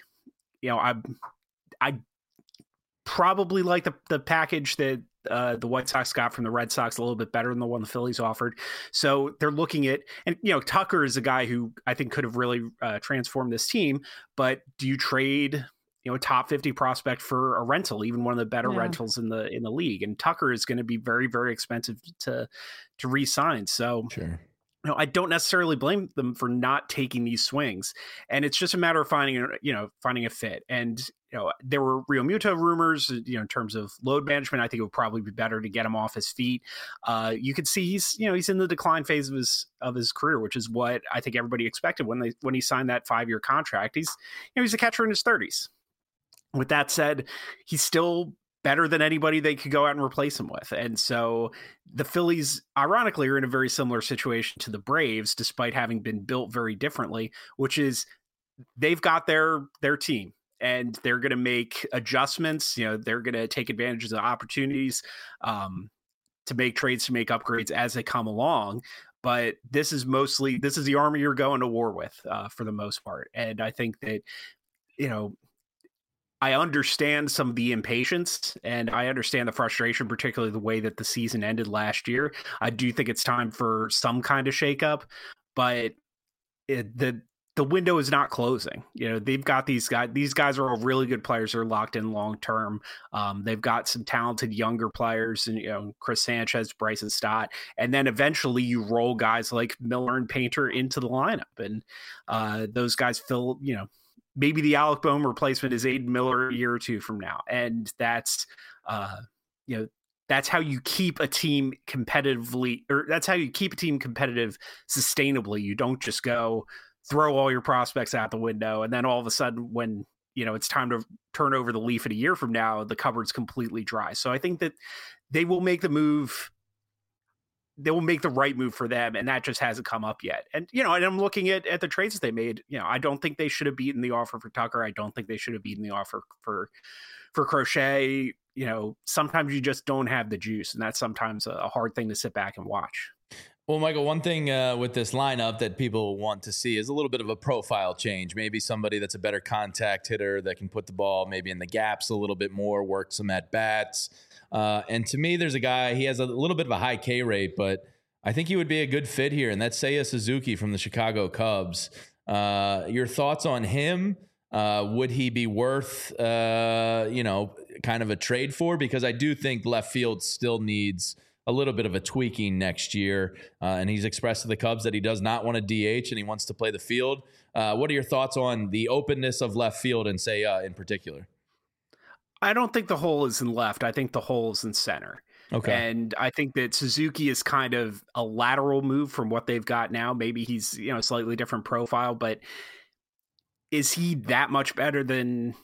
I probably like the package that the White Sox got from the Red Sox a little bit better than the one the Phillies offered. So they're looking at, and Tucker is a guy who I think could have really transformed this team. But do you trade a top 50 prospect for a rental, even one of the better rentals in the league? And Tucker is going to be very, very expensive to re-sign. So sure. I don't necessarily blame them for not taking these swings, and it's just a matter of finding a fit. And there were Realmuto rumors, in terms of load management. I think it would probably be better to get him off his feet. You could see he's in the decline phase of his career, which is what I think everybody expected when he signed that 5-year contract. He's a catcher in his 30s. With that said, he's still better than anybody they could go out and replace him with. And so the Phillies, ironically, are in a very similar situation to the Braves, despite having been built very differently, which is they've got their team and they're going to make adjustments. They're going to take advantage of the opportunities to make trades, to make upgrades as they come along. But this is the army you're going to war with for the most part. And I think that, I understand some of the impatience and I understand the frustration, particularly the way that the season ended last year. I do think it's time for some kind of shakeup, but the window is not closing. They've got these guys. These guys are all really good players. They're locked in long term. They've got some talented younger players, and Chris Sanchez, Bryson Stott, and then eventually you roll guys like Miller and Painter into the lineup, and those guys fill. Maybe the Alec Boehm replacement is Aiden Miller a year or two from now. And that's, that's how you keep a team competitively, or that's how you keep a team competitive sustainably. You don't just go throw all your prospects out the window. And then all of a sudden when, it's time to turn over the leaf in a year from now, the cupboard's completely dry. So I think that they will make the move. They will make the right move for them, and that just hasn't come up yet. And and I'm looking at the trades that they made. I don't think they should have beaten the offer for Tucker. I don't think they should have beaten the offer for Crochet. Sometimes you just don't have the juice, and that's sometimes a hard thing to sit back and watch. Well, Michael, one thing with this lineup that people want to see is a little bit of a profile change. Maybe somebody that's a better contact hitter that can put the ball maybe in the gaps a little bit more, work some at-bats. And to me, there's a guy, he has a little bit of a high K rate, but I think he would be a good fit here, and that's Seiya Suzuki from the Chicago Cubs. Your thoughts on him? Would he be worth, kind of a trade for? Because I do think left field still needs a little bit of a tweaking next year. And he's expressed to the Cubs that he does not want to DH and he wants to play the field. What are your thoughts on the openness of left field and Seiya in particular? I don't think the hole is in left. I think the hole is in center. Okay. And I think that Suzuki is kind of a lateral move from what they've got now. Maybe he's, a slightly different profile, but is he that much better than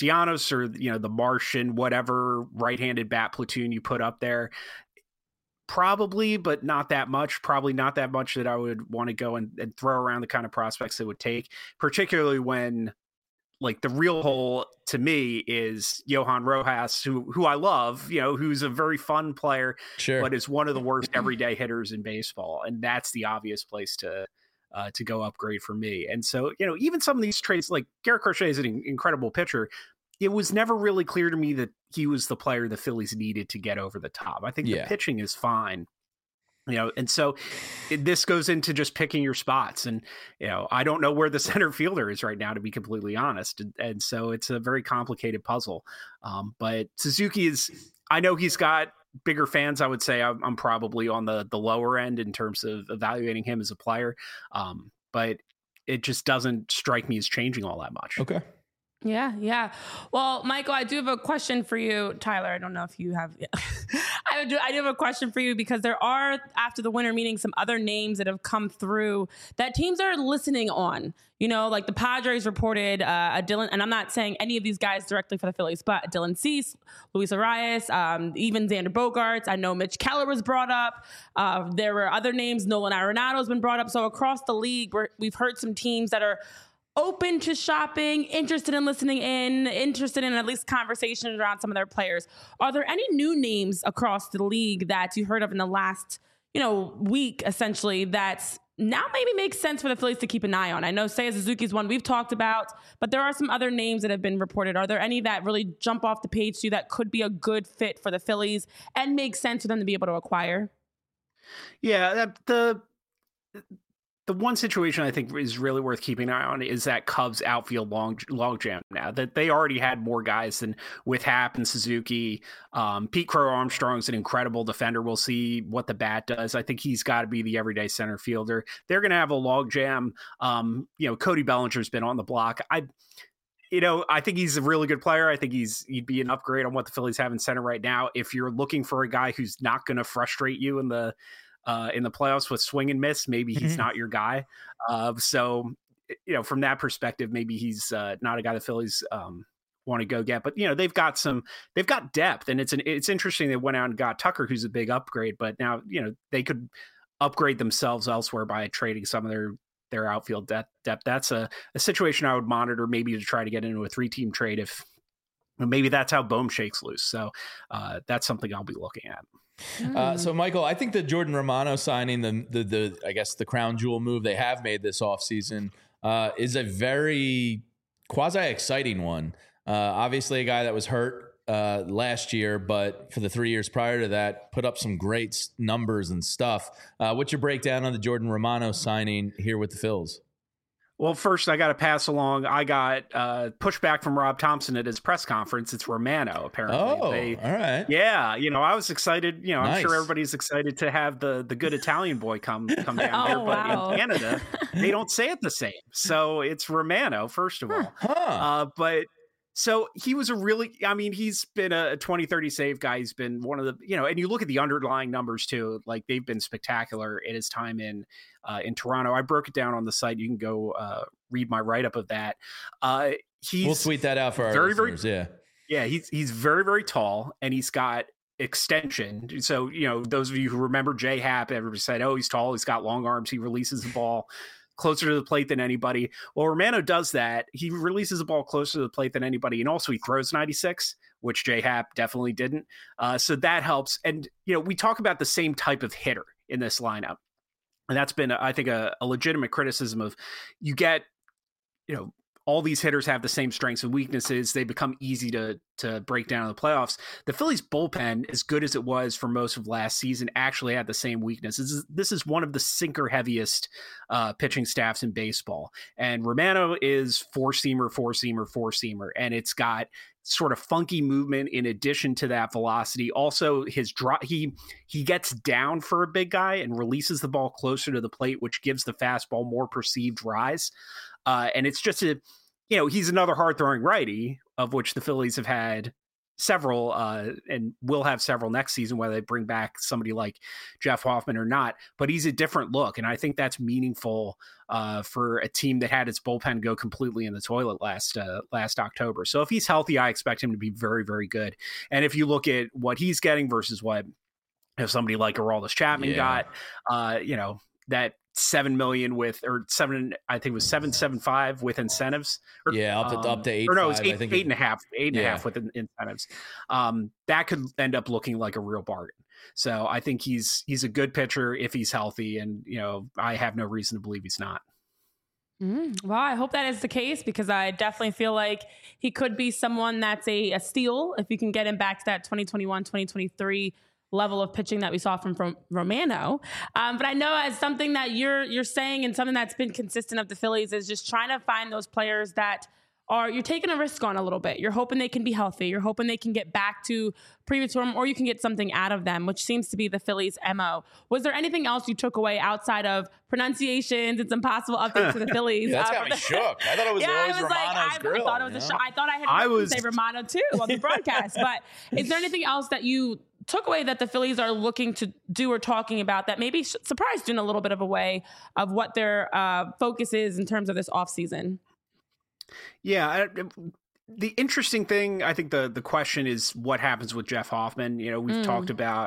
Castellanos or, the Martian, whatever right-handed bat platoon you put up there? Probably, but not that much. Probably not that much that I would want to go and throw around the kind of prospects it would take, particularly when like the real hole to me is Johan Rojas, who I love, who's a very fun player, but is one of the worst everyday hitters in baseball. And that's the obvious place to go upgrade for me. And so, even some of these trades, like Garrett Crochet is an incredible pitcher. It was never really clear to me that he was the player the Phillies needed to get over the top. I think the pitching is fine. And so this goes into just picking your spots. And, I don't know where the center fielder is right now, to be completely honest. And so it's a very complicated puzzle. But Suzuki I know he's got bigger fans. I would say I'm probably on the lower end in terms of evaluating him as a player. But it just doesn't strike me as changing all that much. Okay. Yeah. Well, Michael, I do have a question for you. Tyler, I don't know if you have. I do have a question for you because there are, after the winter meeting, some other names that have come through that teams are listening on. Like the Padres reported a Dylan, and I'm not saying any of these guys directly for the Phillies, but Dylan Cease, Luis Arias, even Xander Bogaerts. I know Mitch Keller was brought up. There were other names. Nolan Arenado has been brought up. So across the league, we've heard some teams that are open to shopping, interested in listening in, interested in at least conversations around some of their players. Are there any new names across the league that you heard of in the last, week, essentially, that's now maybe makes sense for the Phillies to keep an eye on? I know Seiya Suzuki is one we've talked about, but there are some other names that have been reported. Are there any that really jump off the page to you that could be a good fit for the Phillies and make sense for them to be able to acquire? Yeah, the one situation I think is really worth keeping an eye on is that Cubs outfield logjam now. That they already had more guys than with Happ and Suzuki. Pete Crow Armstrong's an incredible defender. We'll see what the bat does. I think he's got to be the everyday center fielder. They're going to have a logjam. Cody Bellinger's been on the block. I think he's a really good player. I think he'd be an upgrade on what the Phillies have in center right now. If you're looking for a guy who's not going to frustrate you in the playoffs with swing and miss, maybe he's not your guy. So from that perspective, maybe he's not a guy the Phillies want to go get. But they've got depth, and it's interesting they went out and got Tucker, who's a big upgrade. But now they could upgrade themselves elsewhere by trading some of their outfield depth. That's a situation I would monitor, maybe to try to get into a 3-team trade if maybe that's how Bohm shakes loose. So that's something I'll be looking at. So Michael, I think the Jordan Romano signing, the I guess the crown jewel move they have made this offseason is a very quasi exciting one. Obviously a guy that was hurt last year, but for the 3 years prior to that, put up some great numbers and stuff. What's your breakdown on the Jordan Romano signing here with the Phils? Well, first, I got to pass along. I got pushback from Rob Thompson at his press conference. It's Romano, apparently. Oh, all right. Yeah, I was excited. Nice. I'm sure everybody's excited to have the good Italian boy come down there. But in Canada, they don't say it the same. So it's Romano, first of all. But so he was he's been a 20-30 save guy. He's been one of the, and you look at the underlying numbers too, like they've been spectacular at his time in Toronto. I broke it down on the site. You can go read my write-up of that. We'll tweet that out for our listeners. Yeah. He's very, very tall, and he's got extension. So, those of you who remember Jay Happ, everybody said, oh, he's tall, he's got long arms, he releases the ball closer to the plate than anybody. Well, Romano does that. He releases the ball closer to the plate than anybody, and also he throws 96, which Jay Happ definitely didn't. So that helps. And, we talk about the same type of hitter in this lineup. And that's been, I think, a legitimate criticism of you get, all these hitters have the same strengths and weaknesses. They become easy to break down in the playoffs. The Phillies bullpen, as good as it was for most of last season, actually had the same weaknesses. This is one of the sinker heaviest pitching staffs in baseball. And Romano is four-seamer, and it's got sort of funky movement in addition to that velocity. Also, his drop, he gets down for a big guy and releases the ball closer to the plate, which gives the fastball more perceived rise. And it's just he's another hard throwing righty, of which the Phillies have had several and will have several next season, whether they bring back somebody like Jeff Hoffman or not. But he's a different look, and I think that's meaningful for a team that had its bullpen go completely in the toilet last October. So if he's healthy, I expect him to be very, very good. And if you look at what he's getting versus what somebody like Aroldis Chapman got, that $7 million I think it was 7.75 with incentives. Up to 8. Or no, it was 8.5 with incentives. That could end up looking like a real bargain. So I think he's a good pitcher if he's healthy, and I have no reason to believe he's not. Well, I hope that is the case, because I definitely feel like he could be someone that's a steal if you can get him back to that 2021, 2023 level of pitching that we saw from Romano. But I know as something that you're saying, and something that's been consistent of the Phillies, is just trying to find those players that you're taking a risk on a little bit. You're hoping they can be healthy. You're hoping they can get back to previous form, or you can get something out of them, which seems to be the Phillies' MO. Was there anything else you took away outside of pronunciations and some possible updates to the Phillies? That's got me shook. I thought it was always Romano's grill. I thought it was I thought I had say Romano too on the broadcast. But is there anything else that you took away that the Phillies are looking to do or talking about that maybe surprised you in a little bit of a way of what their focus is in terms of this offseason? Yeah, the interesting thing, I think the question is what happens with Jeff Hoffman. We've talked about,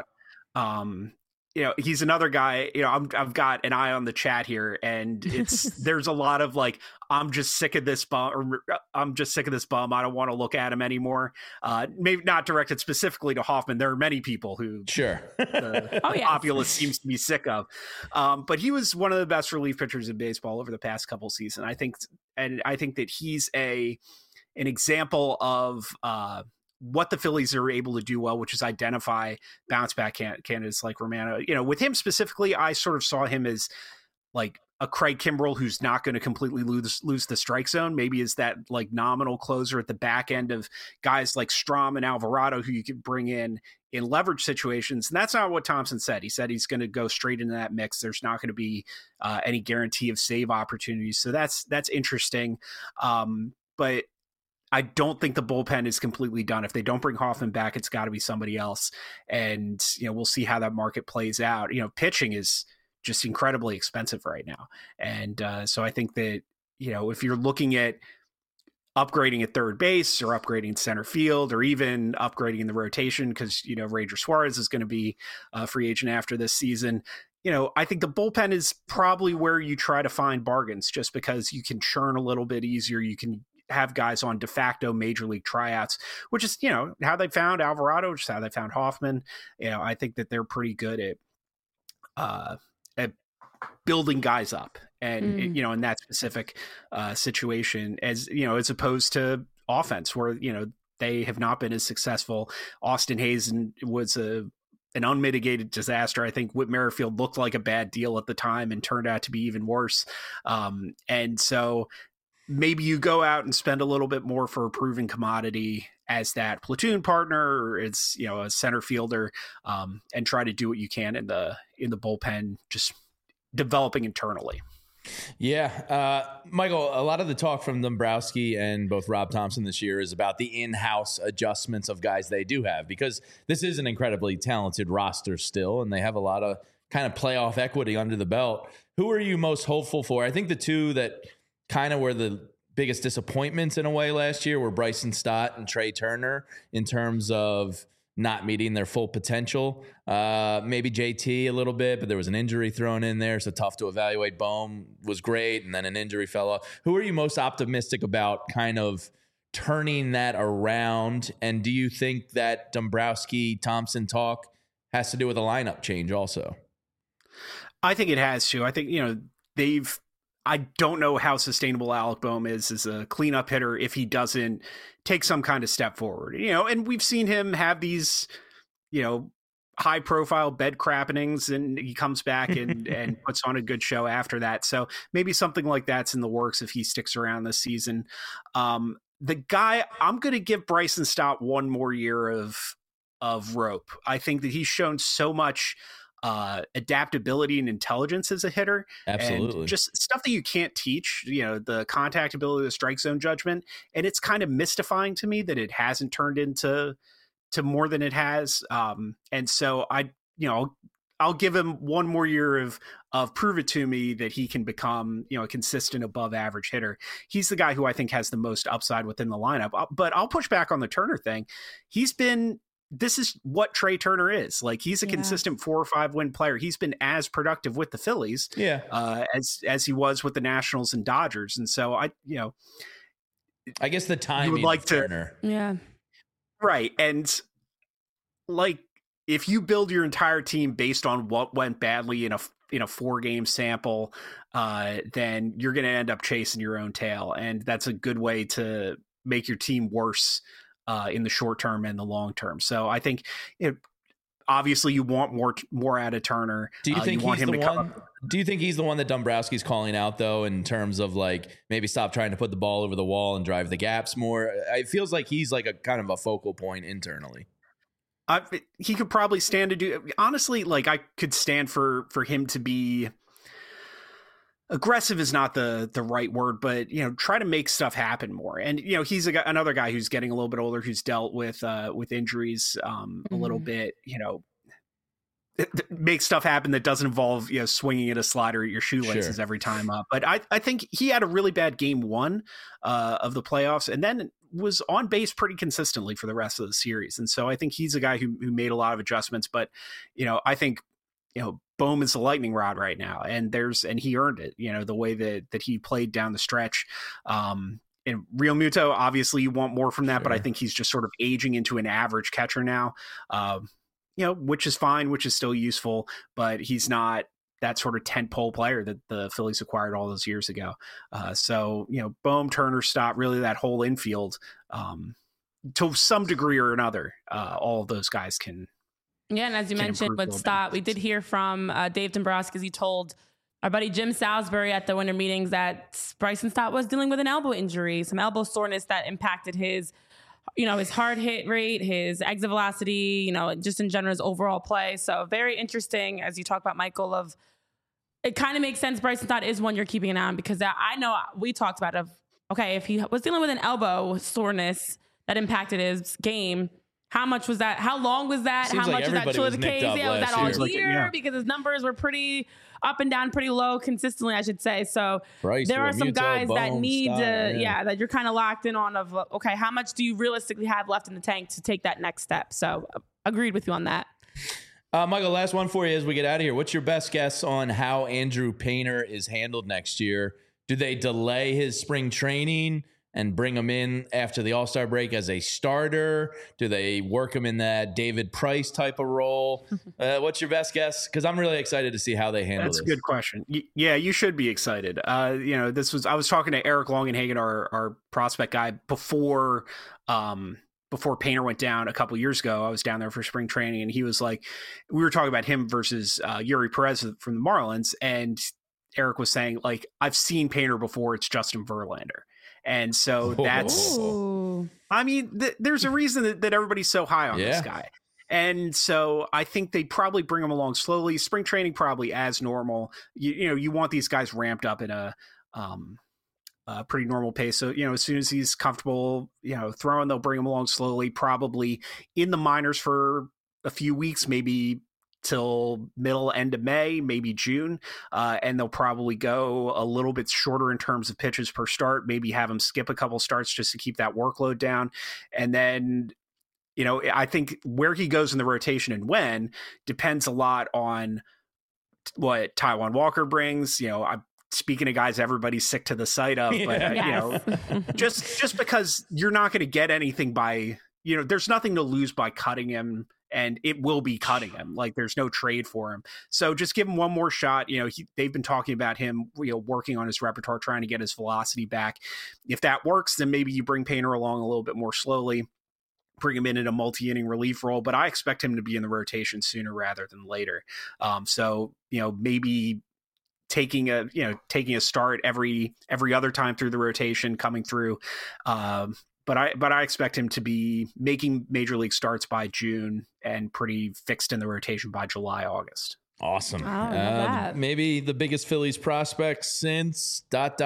he's another guy, I've got an eye on the chat here, and there's a lot of like, I'm just sick of this bum, or I'm just sick of this bum. I don't want to look at him anymore. Maybe not directed specifically to Hoffman. There are many people who the populace seems to be sick of. But he was one of the best relief pitchers in baseball over the past couple seasons. I think that he's an example of what the Phillies are able to do well, which is identify bounce back candidates like Romano. With him specifically, I sort of saw him as like a Craig Kimbrell who's not going to completely lose the strike zone. Maybe is that like nominal closer at the back end of guys like Strahm and Alvarado who you could bring in leverage situations. And that's not what Thompson said. He said he's going to go straight into that mix. There's not going to be any guarantee of save opportunities. So that's interesting. But I don't think the bullpen is completely done. If they don't bring Hoffman back, it's got to be somebody else. And, we'll see how that market plays out. Pitching is just incredibly expensive right now. And so I think that, if you're looking at upgrading at third base or upgrading center field or even upgrading in the rotation, because, Ranger Suarez is going to be a free agent after this season, I think the bullpen is probably where you try to find bargains, just because you can churn a little bit easier. You can have guys on de facto major league tryouts, which is, how they found Alvarado, which is how they found Hoffman. I think that they're pretty good at building guys up and, in that specific situation as opposed to offense where, they have not been as successful. Austin Hayes was an unmitigated disaster. I think Whit Merrifield looked like a bad deal at the time and turned out to be even worse. And so maybe you go out and spend a little bit more for a proven commodity as that platoon partner, or it's, a center fielder, and try to do what you can in the bullpen, just developing internally. Yeah. Michael, a lot of the talk from Dombrowski and both Rob Thompson this year is about the in-house adjustments of guys they do have, because this is an incredibly talented roster still, and they have a lot of kind of playoff equity under the belt. Who are you most hopeful for? I think the two that kind of were the biggest disappointments in a way last year were Bryson Stott and Trey Turner in terms of not meeting their full potential. Maybe JT a little bit, but there was an injury thrown in there, so tough to evaluate. Bohm was great, and then an injury fell off. Who are you most optimistic about kind of turning that around? And do you think that Dombrowski-Thompson talk has to do with a lineup change also? I think it has to. I think, I don't know how sustainable Alec Bohm is as a cleanup hitter if he doesn't take some kind of step forward. And we've seen him have these, high profile bed crappings, and he comes back and puts on a good show after that. So maybe something like that's in the works if he sticks around this season. The guy, I'm going to give Bryson Stott one more year of rope. I think that he's shown so much adaptability and intelligence as a hitter. Absolutely. And just stuff that you can't teach, the contact ability, the strike zone judgment. And it's kind of mystifying to me that it hasn't turned into more than it has. And so I'll give him one more year of prove it to me that he can become, a consistent above average hitter. He's the guy who I think has the most upside within the lineup, but I'll push back on the Turner thing. He's been this is what Trey Turner is. Like, he's a consistent 4 or 5 win player. He's been as productive with the Phillies as he was with the Nationals and Dodgers. And so I guess the timing would like Turner. Right. And like, if you build your entire team based on what went badly in a 4-game sample, then you're going to end up chasing your own tail. And that's a good way to make your team worse in the short term and the long term. So I think obviously you want more out of Turner. Do you think he's the one? Do you think he's the one that Dombrowski's calling out, though, in terms of like maybe stop trying to put the ball over the wall and drive the gaps more? It feels like he's like a kind of a focal point internally. He could probably stand to do. Honestly, like, I could stand for him to be aggressive is not the right word, but try to make stuff happen more. And he's another guy who's getting a little bit older, who's dealt with injuries a little bit. Make stuff happen that doesn't involve swinging at a slider at your shoelaces every time up. But I think he had a really bad game 1 of the playoffs, and then was on base pretty consistently for the rest of the series. And so I think he's a guy who made a lot of adjustments. But I think Bohm is the lightning rod right now, and he earned it. The way that he played down the stretch. And Real Muto, obviously you want more from that, but I think he's just sort of aging into an average catcher now. Which is fine, which is still useful, but he's not that sort of tentpole player that the Phillies acquired all those years ago. So Bohm, Turner, Stott, really that whole infield, to some degree or another, all of those guys can. Yeah, and as you mentioned with Stott, we did hear from Dave Dombrowski. He told our buddy Jim Salisbury at the winter meetings that Bryson Stott was dealing with an elbow injury, some elbow soreness that impacted his hard hit rate, his exit velocity, just in general, his overall play. So very interesting, as you talk about, Michael, it kind of makes sense. Bryson Stott is one you're keeping an eye on, because I know we talked about if he was dealing with an elbow soreness that impacted his game, how much was that? How long was that? Seems how like much was that truly the case? Was that all year? Because his numbers were pretty up and down, pretty low consistently, I should say. So there are some guys that need that you're kind of locked in on how much do you realistically have left in the tank to take that next step? So agreed with you on that. Michael, last one for you as we get out of here. What's your best guess on how Andrew Painter is handled next year? Do they delay his spring training and bring him in after the All-Star break as a starter? Do they work him in that David Price type of role? What's your best guess? Because I'm really excited to see how they handle this. That's a good question. Yeah, you should be excited. I was talking to Eric Longenhagen, our prospect guy, before Painter went down a couple years ago. I was down there for spring training, and he was like, we were talking about him versus Yuri Perez from the Marlins, and Eric was saying, like, I've seen Painter before. It's Justin Verlander. And so that's, there's a reason that everybody's so high on this guy. And so I think they probably bring him along slowly. Spring training probably as normal. You want these guys ramped up in a pretty normal pace. So, as soon as he's comfortable, throwing, they'll bring him along slowly, probably in the minors for a few weeks, maybe till end of May, maybe June. And they'll probably go a little bit shorter in terms of pitches per start, maybe have him skip a couple starts just to keep that workload down. And then, I think where he goes in the rotation and when depends a lot on what Taijuan Walker brings. I'm speaking of guys everybody's sick to the sight of, but just because you're not going to get anything by, there's nothing to lose by cutting him. And it will be cutting him. Like, there's no trade for him. So just give him one more shot. They've been talking about him, working on his repertoire, trying to get his velocity back. If that works, then maybe you bring Painter along a little bit more slowly, bring him in a multi-inning relief role. But I expect him to be in the rotation sooner rather than later. So maybe taking a start every other time through the rotation, coming through. But I expect him to be making major league starts by June and pretty fixed in the rotation by July, August. Awesome. Maybe the biggest Phillies prospect since ...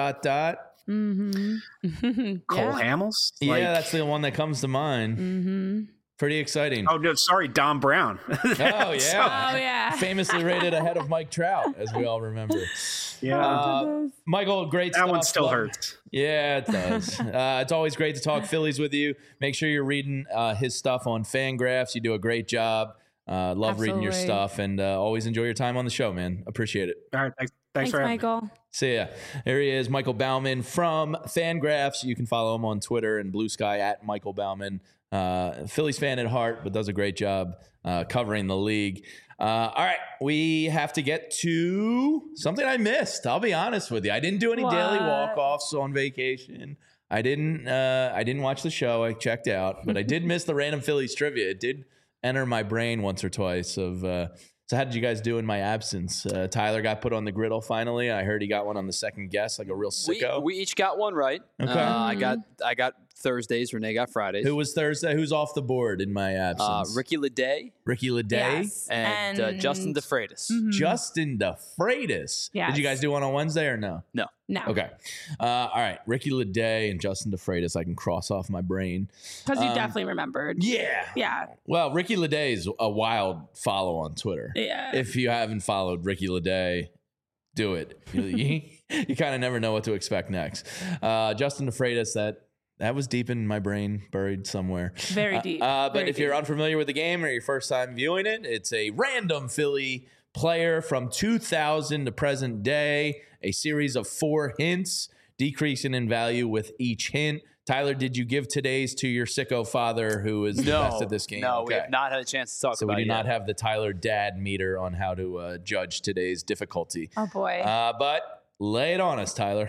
Mm-hmm. Cole Hamels? Yeah, that's the one that comes to mind. Mm-hmm. Pretty exciting. Oh, no, sorry, Dom Brown. Oh, yeah. Famously rated ahead of Mike Trout, as we all remember. Yeah. Michael, great that stuff. One still hurts. Yeah, it does. It's always great to talk Phillies with you. Make sure you're reading his stuff on Fangraphs. You do a great job. Love reading your stuff, and always enjoy your time on the show, man. Appreciate it. All right. Thanks for Michael. See ya. There he is, Michael Baumann from Fangraphs. You can follow him on Twitter and Blue Sky at Michael Baumann. Phillies fan at heart, but does a great job covering the league. All right, we have to get to something I missed. I'll be honest with you. I didn't do any daily walk-offs on vacation. I didn't watch the show. I checked out, but I did miss the random Phillies trivia. It did enter my brain once or twice of so how did you guys do in my absence? Tyler got put on the griddle finally. I heard he got one on the second guess, like a real sicko. We each got one right. Okay. I got Thursdays. Renee got Fridays. Who was Thursday? Who's off the board in my absence? Ricky Leday. Yes. And Justin DeFreitas. Mm-hmm. Justin DeFreitas. Yes. Did you guys do one on Wednesday or no? No. Okay. All right. Ricky Leday and Justin DeFreitas, I can cross off my brain. Because you definitely remembered. Yeah. Yeah. Well, Ricky Leday is a wild follow on Twitter. Yeah. If you haven't followed Ricky Leday, do it. You kind of never know what to expect next. Justin DeFreitas, that was deep in my brain, buried somewhere. Very deep. But if you're unfamiliar with the game or your first time viewing it, it's a random Philly player from 2000 to present day, a series of 4 hints, decreasing in value with each hint. Tyler, did you give today's to your sicko father who is the best at this game? No, okay. We have not had a chance to talk about it. So we do not have the Tyler dad meter on how to judge today's difficulty. Oh, boy. But lay it on us, Tyler.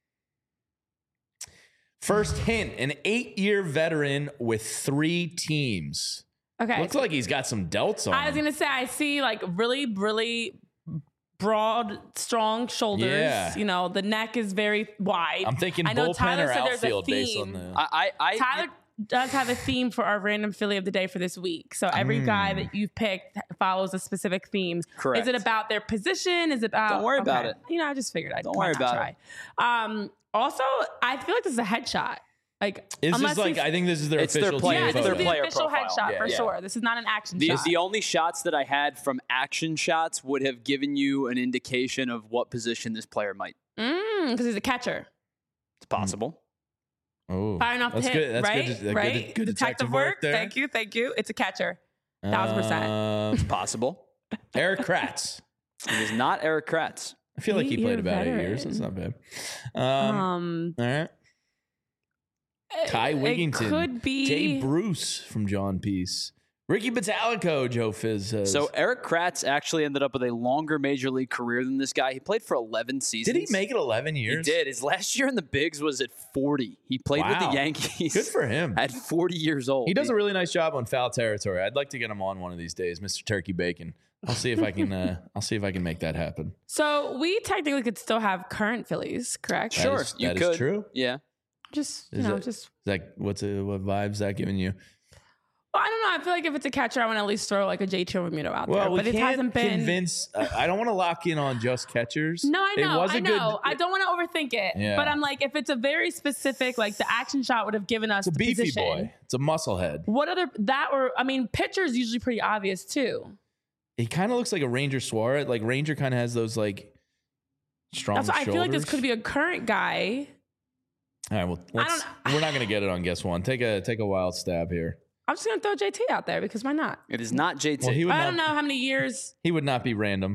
First hint, an 8-year veteran with 3 teams. Okay. Looks like he's got some delts on. I was going to say, I see like really, really broad, strong shoulders. Yeah. You know, the neck is very wide. I'm thinking I know bullpen Tyler or said there's a outfield based on theme. the... Tyler does have a theme for our random Philly of the day for this week. So every guy that you've picked follows a specific theme. Correct. Is it about their position? Is it about... Don't worry about it. You know, I just figured I'd Don't worry about try. Also, I feel like this is a headshot. Like, Is this like, I think this is their official player. Yeah, team this their is the player official profile. headshot for sure. This is not an action shot. The only shots that I had from action shots would have given you an indication of what position this player might. Because he's a catcher. It's possible. Oh, Firing off the hit, good. That's right? good. Right? Good detective work there. Thank you. It's a catcher. 1000%. It's possible. Eric Kratz. It is not Eric Kratz. I feel like he played 8-year about 8 veteran. years. That's not bad. All right. Kai Wigington. It could be Jay Bruce from John Peace. Ricky Batalico, Joe Fizz says. So Eric Kratz actually ended up with a longer major league career than this guy. He played for 11 seasons. Did he make it 11 years? He did. His last year in the bigs was at 40. He played with the Yankees. Good for him. At 40 years old. He does a really nice job on foul territory. I'd like to get him on one of these days, Mr. Turkey Bacon. I'll see if I can. I'll see if I can make that happen. So we technically could still have current Phillies, correct? Sure, that you is could. true. Yeah. Just Is that what vibes that giving you? Well, I don't know. I feel like if it's a catcher, I want to at least throw like a JT Realmuto out there. Well, But we it can't hasn't been. convince. I don't want to lock in on just catchers. No, I know. I know. I Good, don't want to overthink it. Yeah. But I'm like, if it's a very specific, like the action shot would have given us it's a the beefy position. boy. It's a musclehead. What other I mean, pitcher's usually pretty obvious too. He kind of looks like a Ranger Suarez. Like Ranger kind of has those like strong. That's why I shoulders. feel like this could be a current guy. All right, well, we're not going to get it on guess one. Take a wild stab here. I'm just gonna throw JT out there because why not? It is not JT. Well, I don't know how many years. He would not be random.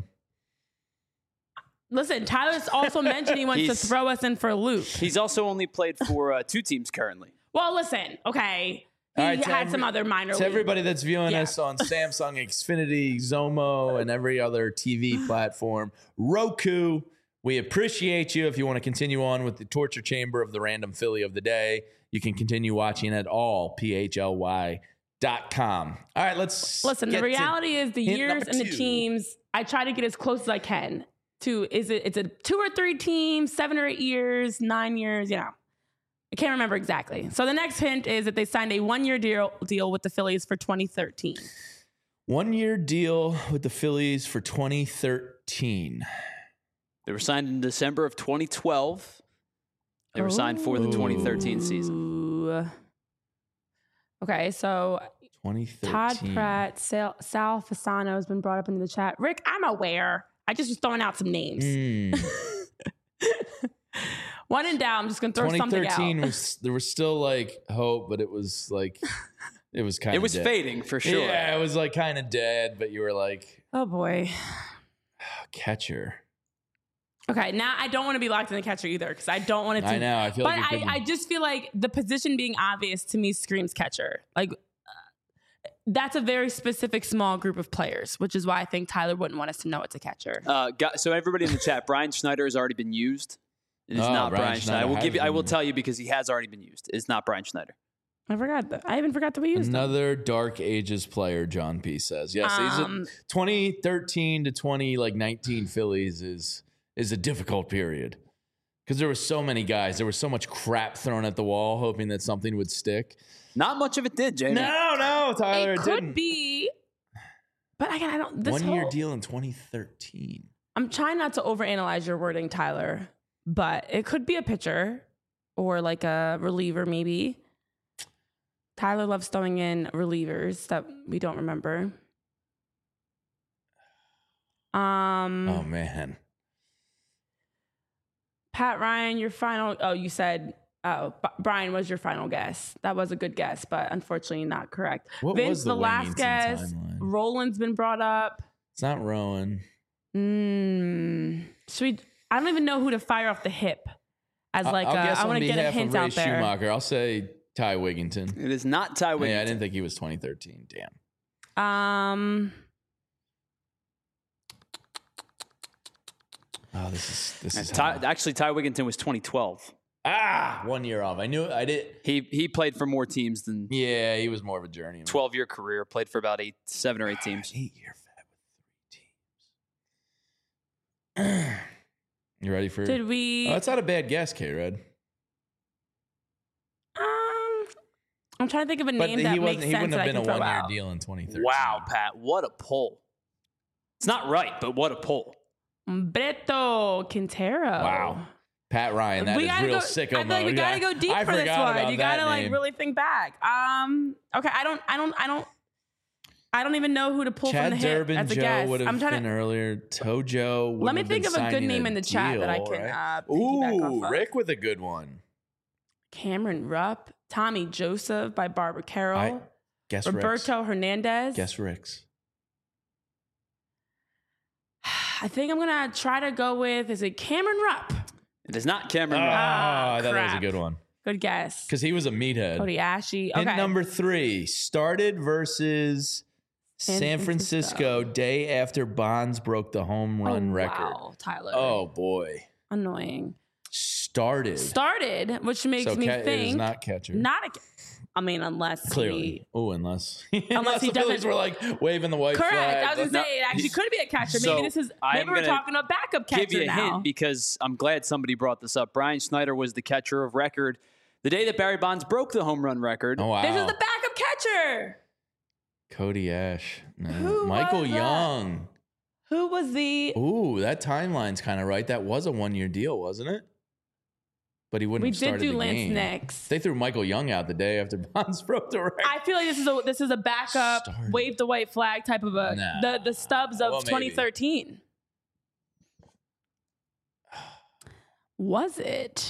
Listen, Tyler's also mentioned he wants to throw us in for a loop. He's also only played for 2 teams currently. Well, listen, okay. He had some other minor league. To everybody that's viewing us on Samsung, Xfinity, Zomo, and every other TV platform, Roku, we appreciate you. If you want to continue on with the torture chamber of the random Philly of the day, you can continue watching at allphly.com. All right, let's listen. The reality is the years and the 2. teams. I try to get as close as I can to. It's a 2 or 3 teams, 7 or 8 years, 9 years. You know, I can't remember exactly. So the next hint is that they signed a 1-year deal with the Phillies for 2013. 1-year deal with the Phillies for 2013. They were signed in December of 2012. They were signed for the 2013 season. Okay, so 2013. Todd Pratt, Sal Fasano has been brought up into the chat. Rick, I'm aware. I just was throwing out some names. When in doubt, I'm just gonna throw something out. 2013 there was still like hope, but it was like it was kind of dead. Fading for sure. Yeah, it was like kind of dead, but you were like, oh boy, catcher. Okay, now I don't want to be locked in the catcher either because I don't want it to. I know. I feel but like I just feel like the position being obvious to me screams catcher. Like that's a very specific small group of players, which is why I think Tyler wouldn't want us to know it's a catcher. So everybody in the chat, Brian Schneider has already been used. It is not Brian Schneider. I will tell you because he has already been used. It's not Brian Schneider. I forgot that. I even forgot that we used another Dark Ages player. John P says yes. 2013 to 2019 Phillies is a difficult period because there were so many guys. There was so much crap thrown at the wall, hoping that something would stick. Not much of it did, Jamie. No, Tyler. It could be, but again, I don't. This 1 year deal in 2013. I'm trying not to overanalyze your wording, Tyler, but it could be a pitcher or like a reliever, maybe. Tyler loves throwing in relievers that we don't remember. Oh man. Pat Ryan, your final. Oh, you said. Oh, Brian was your final guess. That was a good guess, but unfortunately not correct. What Vince was the last guess. Timeline? Roland's been brought up. It's not Rowan. Should we? I don't even know who to fire off the hip. As like, I want to get a hint out there. Schumacher, I'll say Ty Wigginton. It is not Ty Wigginton. Yeah, I didn't think he was 2013. Damn. Oh, this is actually Ty Wigginton was 2012. 1 year off. I knew it. I did. He played for more teams than. Yeah, he was more of a journeyman. 12-year career, played for about 7 or 8 teams. 8-year fat with 3 teams. You ready for? Did we? Oh, that's not a bad guess, K-Red. I'm trying to think of a name that makes sense. He wouldn't have been a 1-year out. deal in 2013. Wow, Pat, what a pull! It's not right, but what a pull. Humberto Quintero. Wow. Pat Ryan, that is real sicko mode. I feel like we gotta go deep for this one. You gotta like really think back. Okay, I don't even know who to pull Chad from the hip Durbin, as a Joe guess. would have been earlier. Tojo. Let me think of a good name in the chat that I can piggyback off of. Rick with a good one. Cameron Rupp, Tommy Joseph by Barbara Carroll. Guess Roberto Rick's. Hernandez. Guess Rick's. I think I'm gonna try to go with. Is it Cameron Rupp? It is not Cameron Rupp. I thought that was a good one. Good guess. Because he was a meathead. Cody Ashe. Okay. Hint number 3. Started versus San Francisco day after Bonds broke the home run record. Wow, Tyler. Oh, boy. Annoying. Started, which makes me think. It is not catcher. Unless clearly. Unless he the Phillies were like waving the white flag. Correct. I was gonna say it actually could be a catcher. So Maybe we're talking about backup catcher now. Give you a hint because I'm glad somebody brought this up. Brian Schneider was the catcher of record the day that Barry Bonds broke the home run record. Oh wow! This is the backup catcher. Cody Ashe. No. Michael Young. Who was the? Ooh, that timeline's kind of right. That was a 1-year deal, wasn't it? But he wouldn't have started the game. We did do Lance Nix. They threw Michael Young out the day after Bonds broke the record. I feel like this is a backup, wave the white flag type of the stubs of 2013. Was it?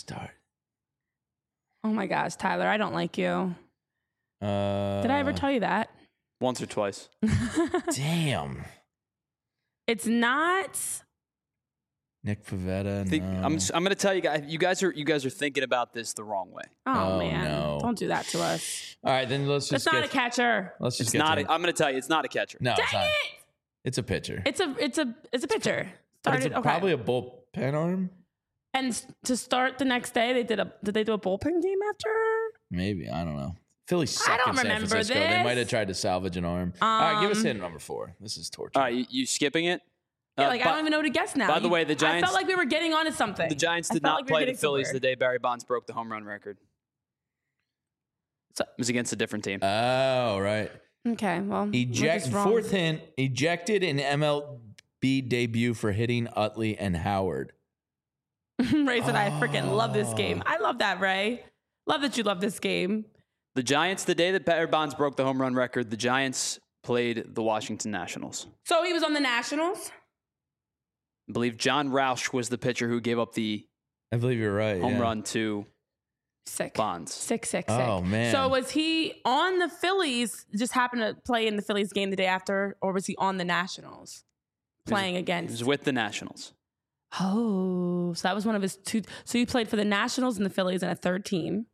Oh my gosh, Tyler, I don't like you. Did I ever tell you that? Once or twice. Damn. It's not Nick Pivetta. I'm going to tell you guys. You guys are thinking about this the wrong way. Oh man! No. Don't do that to us. All right, then let's just. It's not a catcher. Let's just. It's not. I'm going to tell you, it's not a catcher. No, dang it's not. It! It's a pitcher. It's a pitcher. Probably a bullpen arm. And to start the next day, did they do a bullpen game after? Maybe, I don't know. Philly suck in San Francisco. This. They might have tried to salvage an arm. All right, give us hint number 4. This is torture. All right, you skipping it? Yeah, I don't even know who to guess now. By the way, the Giants. I felt like we were getting onto something. The Giants did not play the Phillies the day Barry Bonds broke the home run record. So, it was against a different team. Oh, right. Okay, well. Fourth hint, ejected in MLB debut for hitting Utley and Howard. Ray said, I freaking love this game. I love that, Ray. Love that you love this game. The Giants, the day that Barry Bonds broke the home run record, the Giants played the Washington Nationals. So he was on the Nationals? I believe John Roush was the pitcher who gave up the I believe you're right. Home run to Sick. Bonds. Sick. Oh, man. So was he on the Phillies, just happened to play in the Phillies game the day after, or was he on the Nationals playing against? He was with the Nationals. Oh, so that was one of his two. So he played for the Nationals and the Phillies and a third team.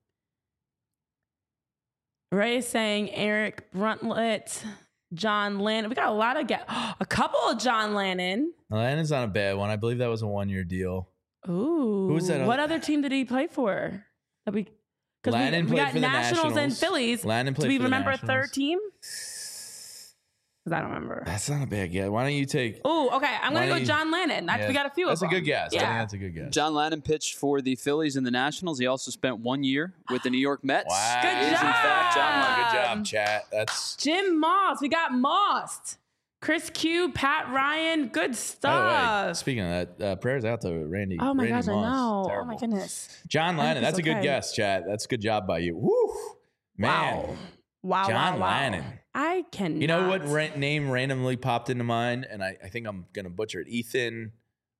Ray is saying Eric Bruntlett, John Lannon. We got a lot of a couple of John Lannon. Lannon's not a bad one. I believe that was a 1-year deal. Ooh. Who was that? What other team did he play for? Lannon we played got for the Nationals and Nationals. Phillies. Lannon played Do we for the remember a Nationals. third team? Because I don't remember. That's not a bad guess. Why don't you take... Oh, okay. I'm going to go John Lannon. Yeah, We got a few that's of them. a good guess. Yeah. I think that's a good guess. John Lannon pitched for the Phillies and the Nationals. He also spent 1 year with the New York Mets. Wow. Good It is, in fact, John Lannon. Good job, chat. That's... Jim Moss. We got Moss. Chris Q, Pat Ryan. Good stuff. By the way, speaking of that, prayers out to Randy. Oh my Randy gosh, I Moss. know. Terrible. Oh my goodness. John Lannon. That's a good okay. guess, chat. That's a good job by you. Woo. Man. Wow. John wow. Lannon. I can. You know what name randomly popped into mind? And I think I'm going to butcher it. Ethan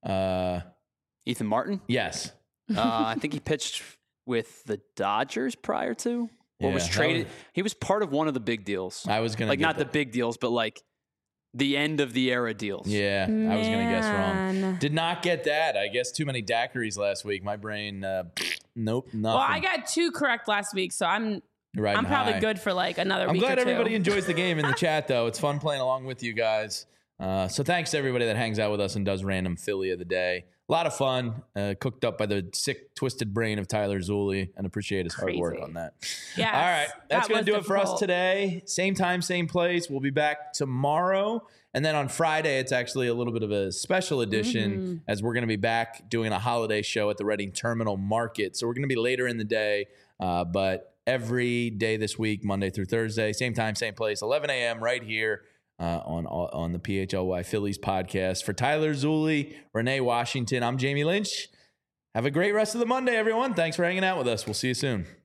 Martin? Yes. I think he pitched with the Dodgers prior to. Or Yeah, was traded. He was part of one of the big deals. I was going to not the big deals, but like the end of the era deals. Yeah, I was going to guess Man. wrong. Did not get that. I guess too many daiquiris last week. My brain, nope, nothing. Well, I got 2 correct last week, so I'm probably good for like another I'm week glad or 2. everybody enjoys the game in the chat, though. It's fun playing along with you guys. So thanks to everybody that hangs out with us and does random Philly of the day. A lot of fun, cooked up by the sick, twisted brain of Tyler Zulli, and appreciate his hard work on that. Yes, all right, that's going to do it for us difficult. today. Same time, same place. We'll be back tomorrow. And then on Friday, it's actually a little bit of a special edition as we're going to be back doing a holiday show at the Reading Terminal Market. So we're going to be later in the day, but every day this week, Monday through Thursday, same time, same place, 11 a.m. right here. On the PHLY Phillies podcast. For Tyler Zulli, Renee Washington, I'm Jamie Lynch. Have a great rest of the Monday, everyone. Thanks for hanging out with us. We'll see you soon.